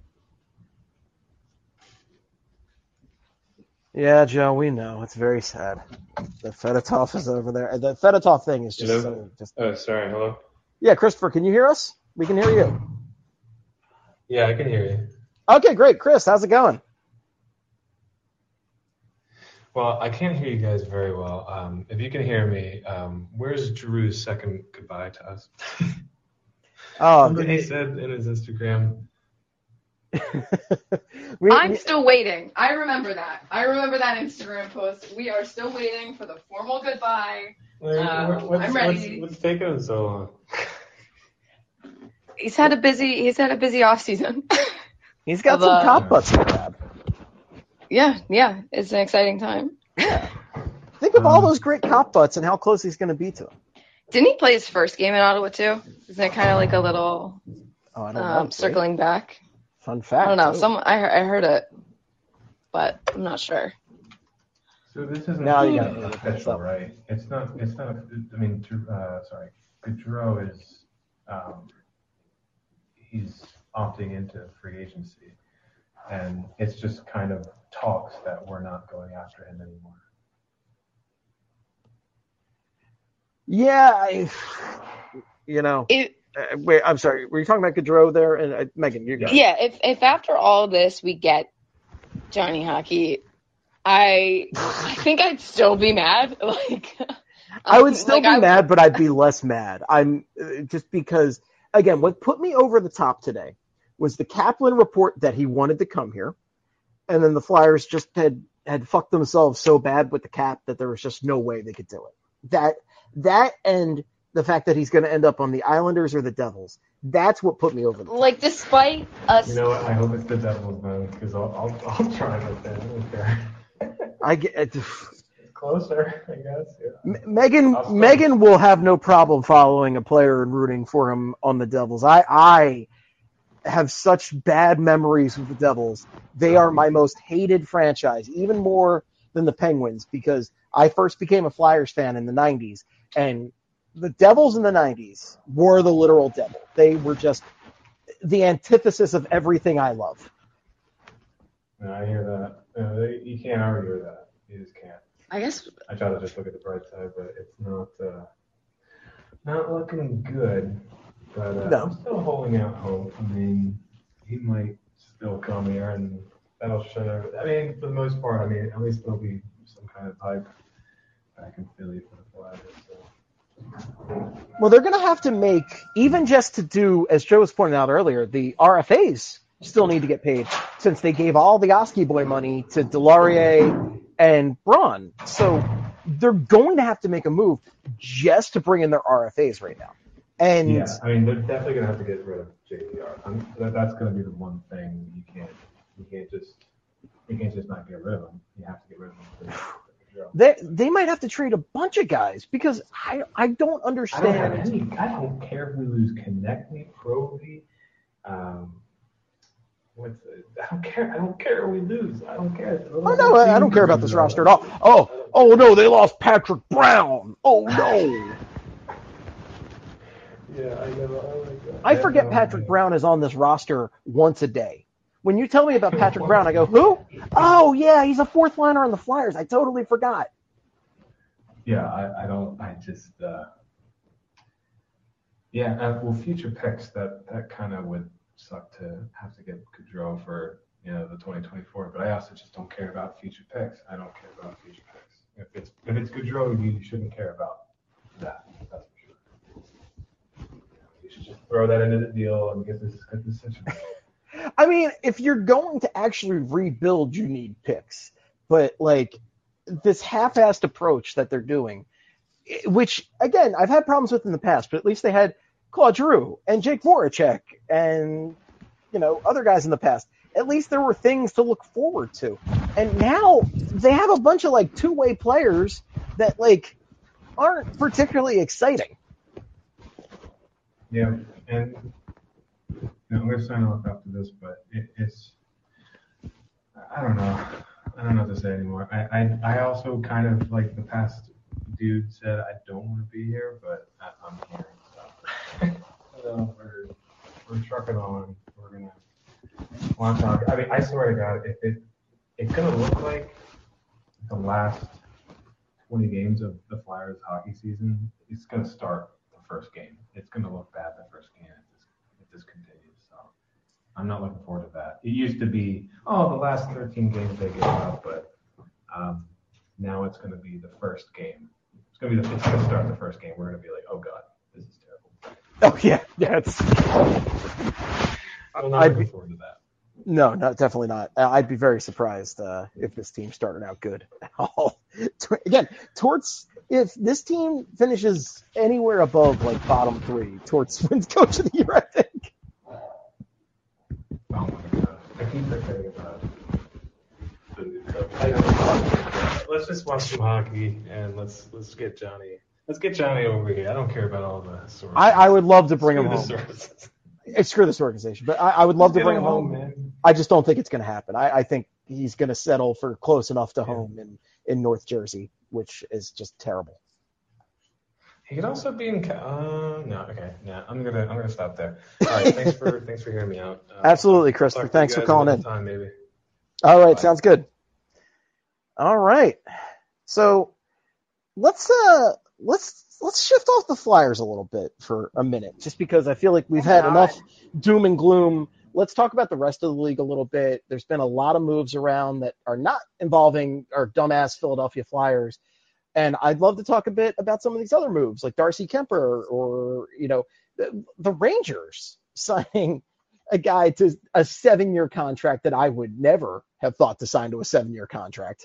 Yeah, Joe, we know. It's very sad. The Fedotov is over there. The Fedotov thing is just Hello? so... Sorry, hello? Yeah, Christopher, can you hear us? We can hear you. Yeah, I can hear you. Okay, great. Chris, how's it going? Well, I can't hear you guys very well. If you can hear me, where's Drew's second goodbye to us? Somebody said in his Instagram. I'm still waiting. I remember that. I remember that Instagram post. We are still waiting for the formal goodbye. I'm ready. What's taking him so long? He's had a busy off season. He's got some top butts to grab. Yeah, it's an exciting time. Think of all those great cop butts and how close he's going to be to them. Didn't he play his first game in Ottawa too? Isn't it kind of like a little I don't know, circling back? Fun fact. I don't know. too. I heard it, but I'm not sure. So this isn't Now you gotta official, right? It's not. I mean, sorry. Gaudreau is. He's opting into free agency, and it's just kind of talks that we're not going after him anymore. Yeah, wait, I'm sorry. Were you talking about Gaudreau there? And Megan, you got it. Yeah, if after all this we get Johnny Hockey, I think I'd still be mad. I would still be mad, but I'd be less mad. I'm just because, again, what put me over the top today was the Kaplan report that he wanted to come here, and then the Flyers just had fucked themselves so bad with the cap that there was just no way they could do it. That and the fact that he's going to end up on the Islanders or the Devils. That's what put me over the top. Despite us. You know what? I hope it's the Devils, man, because I'll try with that. I don't care. I get Closer, I guess. Yeah. Megan will have no problem following a player and rooting for him on the Devils. I have such bad memories with the Devils. They are my most hated franchise, even more than the Penguins, because I first became a Flyers fan in the 90s, and the Devils in the 90s were the literal devil. They were just the antithesis of everything I love. No, I hear that. You can't argue with that. You just can't. I guess I try to just look at the bright side, but it's not looking good. But No. I'm still holding out hope. I mean, he might still come here, and that'll show. I mean, for the most part, at least there'll be some kind of hype back in Philly for the Flyers. So. Well, they're going to have to make, even just to do, as Joe was pointing out earlier, the RFAs still need to get paid since they gave all the Oski Boy money to Delarier and Braun. So they're going to have to make a move just to bring in their RFAs right now. And yeah, they're definitely going to have to get rid of JVR. That's going to be the one thing you can't just not get rid of him. You have to get rid of him. They might have to trade a bunch of guys because I don't understand. I don't care if we lose Konechny, Provy. I don't care. I don't care if we lose. I don't care. Oh no, I don't care about this roster at all. Oh no, they lost Patrick Brown. Oh no. Yeah, I know. I forget Patrick Brown is on this roster once a day. When you tell me about Patrick Brown, I go, who? Oh, yeah, he's a fourth liner on the Flyers. I totally forgot. Yeah, I don't. I just. Well, future picks, that kind of would suck to have to get Gaudreau for the 2024. But I also just don't care about future picks. I don't care about future picks. If it's Gaudreau, you shouldn't care about that. That's for sure. just throw that into the deal and get this situation. I mean, if you're going to actually rebuild, you need picks. But, like, this half-assed approach that they're doing, which, again, I've had problems with in the past, but at least they had Claude Giroux and Jake Voracek and, other guys in the past. At least there were things to look forward to. And now they have a bunch of, like, two-way players that, like, aren't particularly exciting. Yeah, and I'm going to sign off after this, but it's I don't know. I don't know what to say anymore. I also kind of, like the past dude said, I don't want to be here, but I'm here. So we're trucking on. We're going to want to talk. I mean, I swear to God, if it's going to look like the last 20 games of the Flyers hockey season, it's going to start the first game. It's going to look bad the first game if this continues. So I'm not looking forward to that. It used to be, the last 13 games they give up, but now it's going to be the first game. It's going to start the first game. We're going to be like, oh God, this is terrible. Oh yeah, it's. I'm not looking forward to that. No, definitely not. I'd be very surprised if this team started out good at all. Again, if this team finishes anywhere above like bottom 3, Torts wins Coach of the Year, I think. Oh my God, I keep forgetting about the new coach. Let's just watch some hockey and let's get Johnny. Let's get Johnny over here. I don't care about all the sources. I would love to bring him home. Sources. Screw this organization, but I would love to bring him home. Man. I just don't think it's going to happen. I think he's going to settle for close enough to home in North Jersey, which is just terrible. He could also be in. No, okay, yeah, I'm gonna stop there. All right, thanks for hearing me out. Absolutely, Christopher. Thanks for calling in. Time, maybe. All right, sounds good. All right, so let's shift off the Flyers a little bit for a minute, just because I feel like we've had enough doom and gloom. Let's talk about the rest of the league a little bit. There's been a lot of moves around that are not involving our dumbass Philadelphia Flyers. And I'd love to talk a bit about some of these other moves, like Darcy Kemper or, the Rangers signing a guy to a 7-year contract that I would never have thought to sign to a 7-year contract.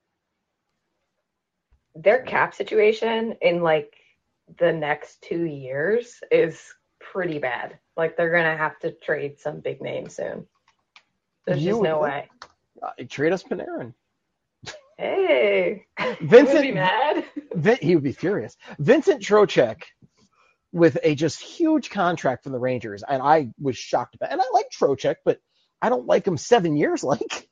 Their cap situation in like the next 2 years is pretty bad. Like they're going to have to trade some big names soon. There's just no way. Trade us Panarin. Hey, Vincent would be mad. He would be furious. Vincent Trocheck with a just huge contract from the Rangers, and I was shocked about it. And I like Trocheck, but I don't like him 7 years like.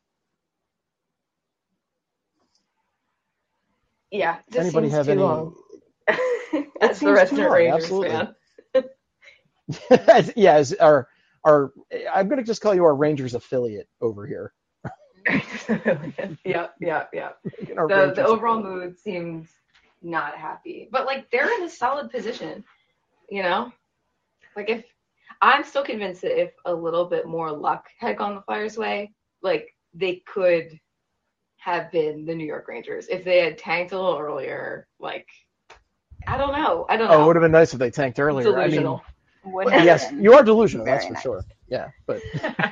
Yeah, does anybody have too any? Long. As the resident Rangers absolutely. fan. As our I'm going to just call you our Rangers affiliate over here. Yeah. The overall mood seems not happy, but like they're in a solid position, Like if I'm still convinced that if a little bit more luck had gone the Flyers' way, like they could have been the New York Rangers if they had tanked a little earlier. Like I don't know. Oh, it would have been nice if they tanked earlier. Delusional. Yes, you are delusional. That's for sure. Yeah, but.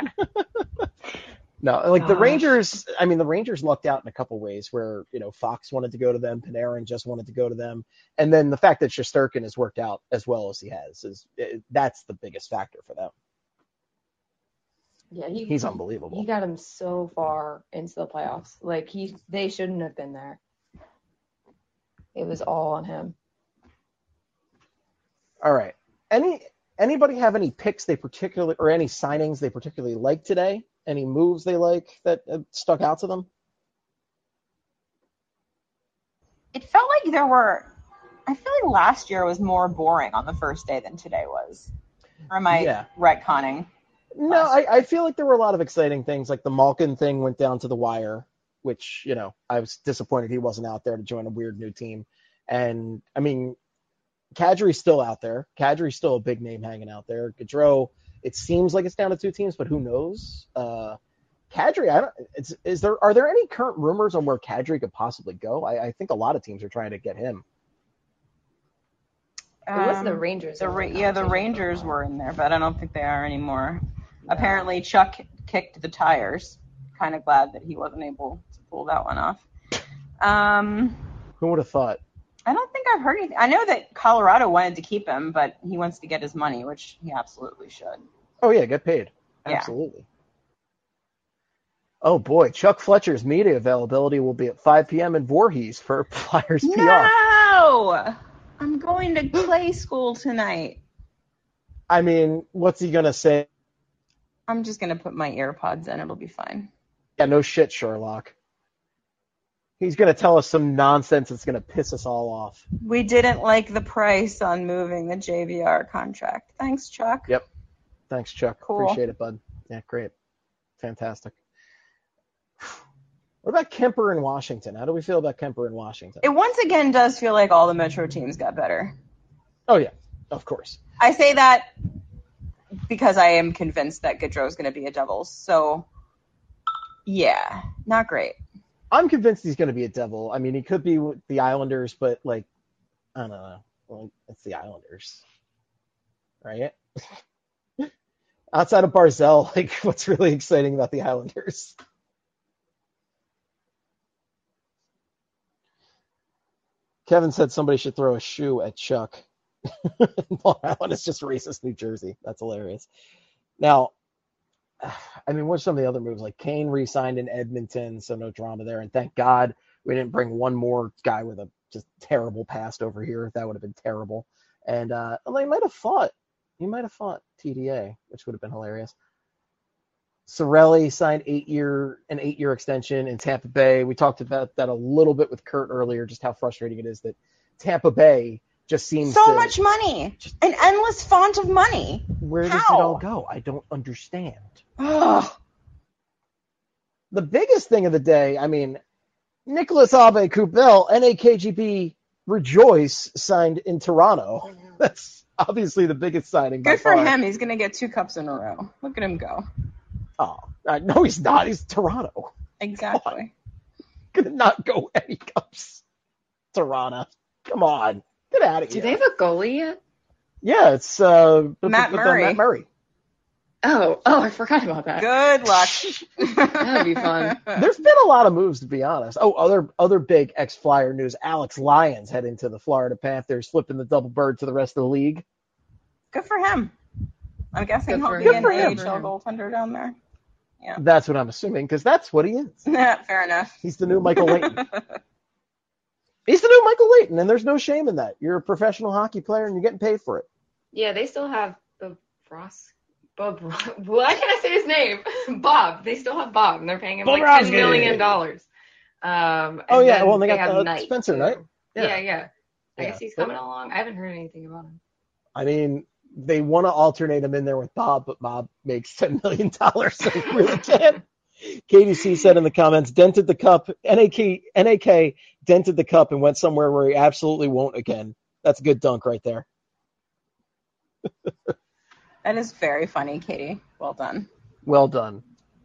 No, like the Rangers, the Rangers lucked out in a couple ways where, Fox wanted to go to them, Panarin just wanted to go to them. And then the fact that Shesterkin has worked out as well as he has, that's the biggest factor for them. Yeah, he's unbelievable. He got him so far into the playoffs. Like they shouldn't have been there. It was all on him. All right. Anybody have any picks or any signings they particularly like today? Any moves they like that stuck out to them? It felt like I feel like last year was more boring on the first day than today was. Or am I retconning? No, I feel like there were a lot of exciting things. Like the Malkin thing went down to the wire, which, I was disappointed he wasn't out there to join a weird new team. And, Kadri's still out there. Kadri's still a big name hanging out there. Gaudreau, it seems like it's down to 2 teams, but who knows? Kadri, are there any current rumors on where Kadri could possibly go? I think a lot of teams are trying to get him. It was the Rangers. The Rangers were in there, but I don't think they are anymore. Apparently, Chuck kicked the tires. Kind of glad that he wasn't able to pull that one off. Who would have thought? I don't think I've heard anything. I know that Colorado wanted to keep him, but he wants to get his money, which he absolutely should. Oh, yeah, get paid. Yeah. Absolutely. Oh, boy. Chuck Fletcher's media availability will be at 5 p.m. in Voorhees for Flyers PR. No! I'm going to play school tonight. I mean, what's he going to say? I'm just going to put my AirPods in. It'll be fine. Yeah, no shit, Sherlock. He's going to tell us some nonsense that's going to piss us all off. We didn't like the price on moving the JVR contract. Thanks, Chuck. Yep. Thanks, Chuck. Cool. Appreciate it, bud. Yeah, great. Fantastic. What about Kemper in Washington? How do we feel about Kemper in Washington? It once again does feel like all the Metro teams got better. Oh, yeah. Of course. I say that because I am convinced that Gaudreau is going to be a Devils. So, yeah, not great. I'm convinced he's going to be a Devil. I mean, he could be with the Islanders, but, like, I don't know. Well, it's the Islanders. Right? Outside of Barzell, like, what's really exciting about the Islanders? Kevin said somebody should throw a shoe at Chuck. Long Island is just racist New Jersey. That's hilarious. Now, I mean, what's some of the other moves? Like Kane re-signed in Edmonton, so no drama there. And thank God we didn't bring one more guy with a just terrible past over here. That would have been terrible. And he might have fought TDA, which would have been hilarious. Sorelli signed an 8-year extension in Tampa Bay. We talked about that a little bit with Kurt earlier, just how frustrating it is that Tampa Bay just seems so much money, an endless font of money. Where does it all go? I don't understand. The biggest thing of the day, I mean, Nicholas Aube-Kubel, NAKGB Rejoice signed in Toronto. That's obviously the biggest signing. Good for him. He's going to get 2 cups in a row. Look at him go. Oh, no, he's not. He's Toronto. Exactly. Gonna not go any cups. Toronto. Come on. Get out of here. Do they have a goalie yet? Yeah, it's Matt Murray. Matt Murray. Oh, I forgot about that. Good luck. That'd be fun. There's been a lot of moves, to be honest. Oh, other big ex-Flyer news. Alex Lyons heading to the Florida Panthers, flipping the double bird to the rest of the league. Good for him. I'm guessing he'll be an AHL goaltender down there. Yeah. That's what I'm assuming, because that's what he is. Fair enough. He's the new Michael Leighton. He's the new Michael Leighton, and there's no shame in that. You're a professional hockey player, and you're getting paid for it. Yeah, they still have Bob. Why can't I say his name? Bob. They still have Bob, and they're paying him like $10 million. Well, they got Spencer, right? Yeah. I guess he's coming along. I haven't heard anything about him. I mean, they want to alternate him in there with Bob, but Bob makes $10 million, so he really can't. Katie C said in the comments, dented the cup. NAK dented the cup and went somewhere where he absolutely won't again. That's a good dunk right there. That is very funny, Katie. Well done. Well done.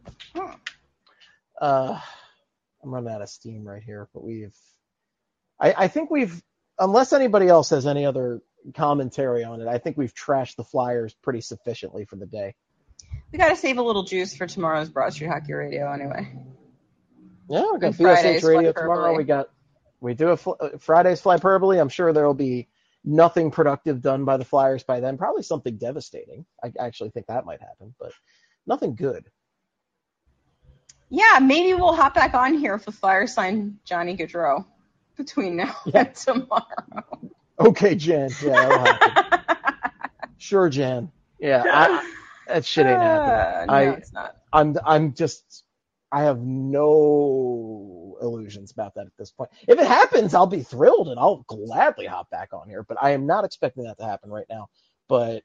I'm running out of steam right here, but I think we've, unless anybody else has any other commentary on it, I think we've trashed the Flyers pretty sufficiently for the day. We got to save a little juice for tomorrow's Broad Street Hockey Radio anyway. Yeah, we got BSH Radio tomorrow. We do a Friday's Flyperbole. I'm sure there will be nothing productive done by the Flyers by then. Probably something devastating. I actually think that might happen, but nothing good. Yeah, maybe we'll hop back on here if the Flyers sign Johnny Gaudreau between now and tomorrow. Okay, Jan. Yeah, that'll happen. Sure, Jan. Yeah, that shit ain't happening. No, it's not. I have no illusions about that at this point. If it happens, I'll be thrilled and I'll gladly hop back on here, but I am not expecting that to happen right now. But,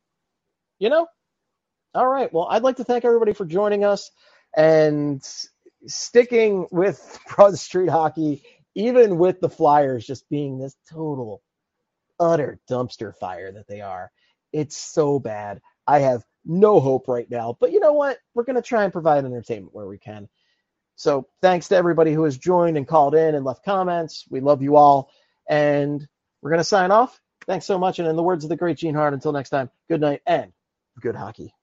all right. Well, I'd like to thank everybody for joining us and sticking with Broad Street Hockey, even with the Flyers just being this total, utter dumpster fire that they are. It's so bad. I have no hope right now, but you know what? We're going to try and provide entertainment where we can. So thanks to everybody who has joined and called in and left comments. We love you all. And we're going to sign off. Thanks so much. And in the words of the great Gene Hart, until next time, good night and good hockey.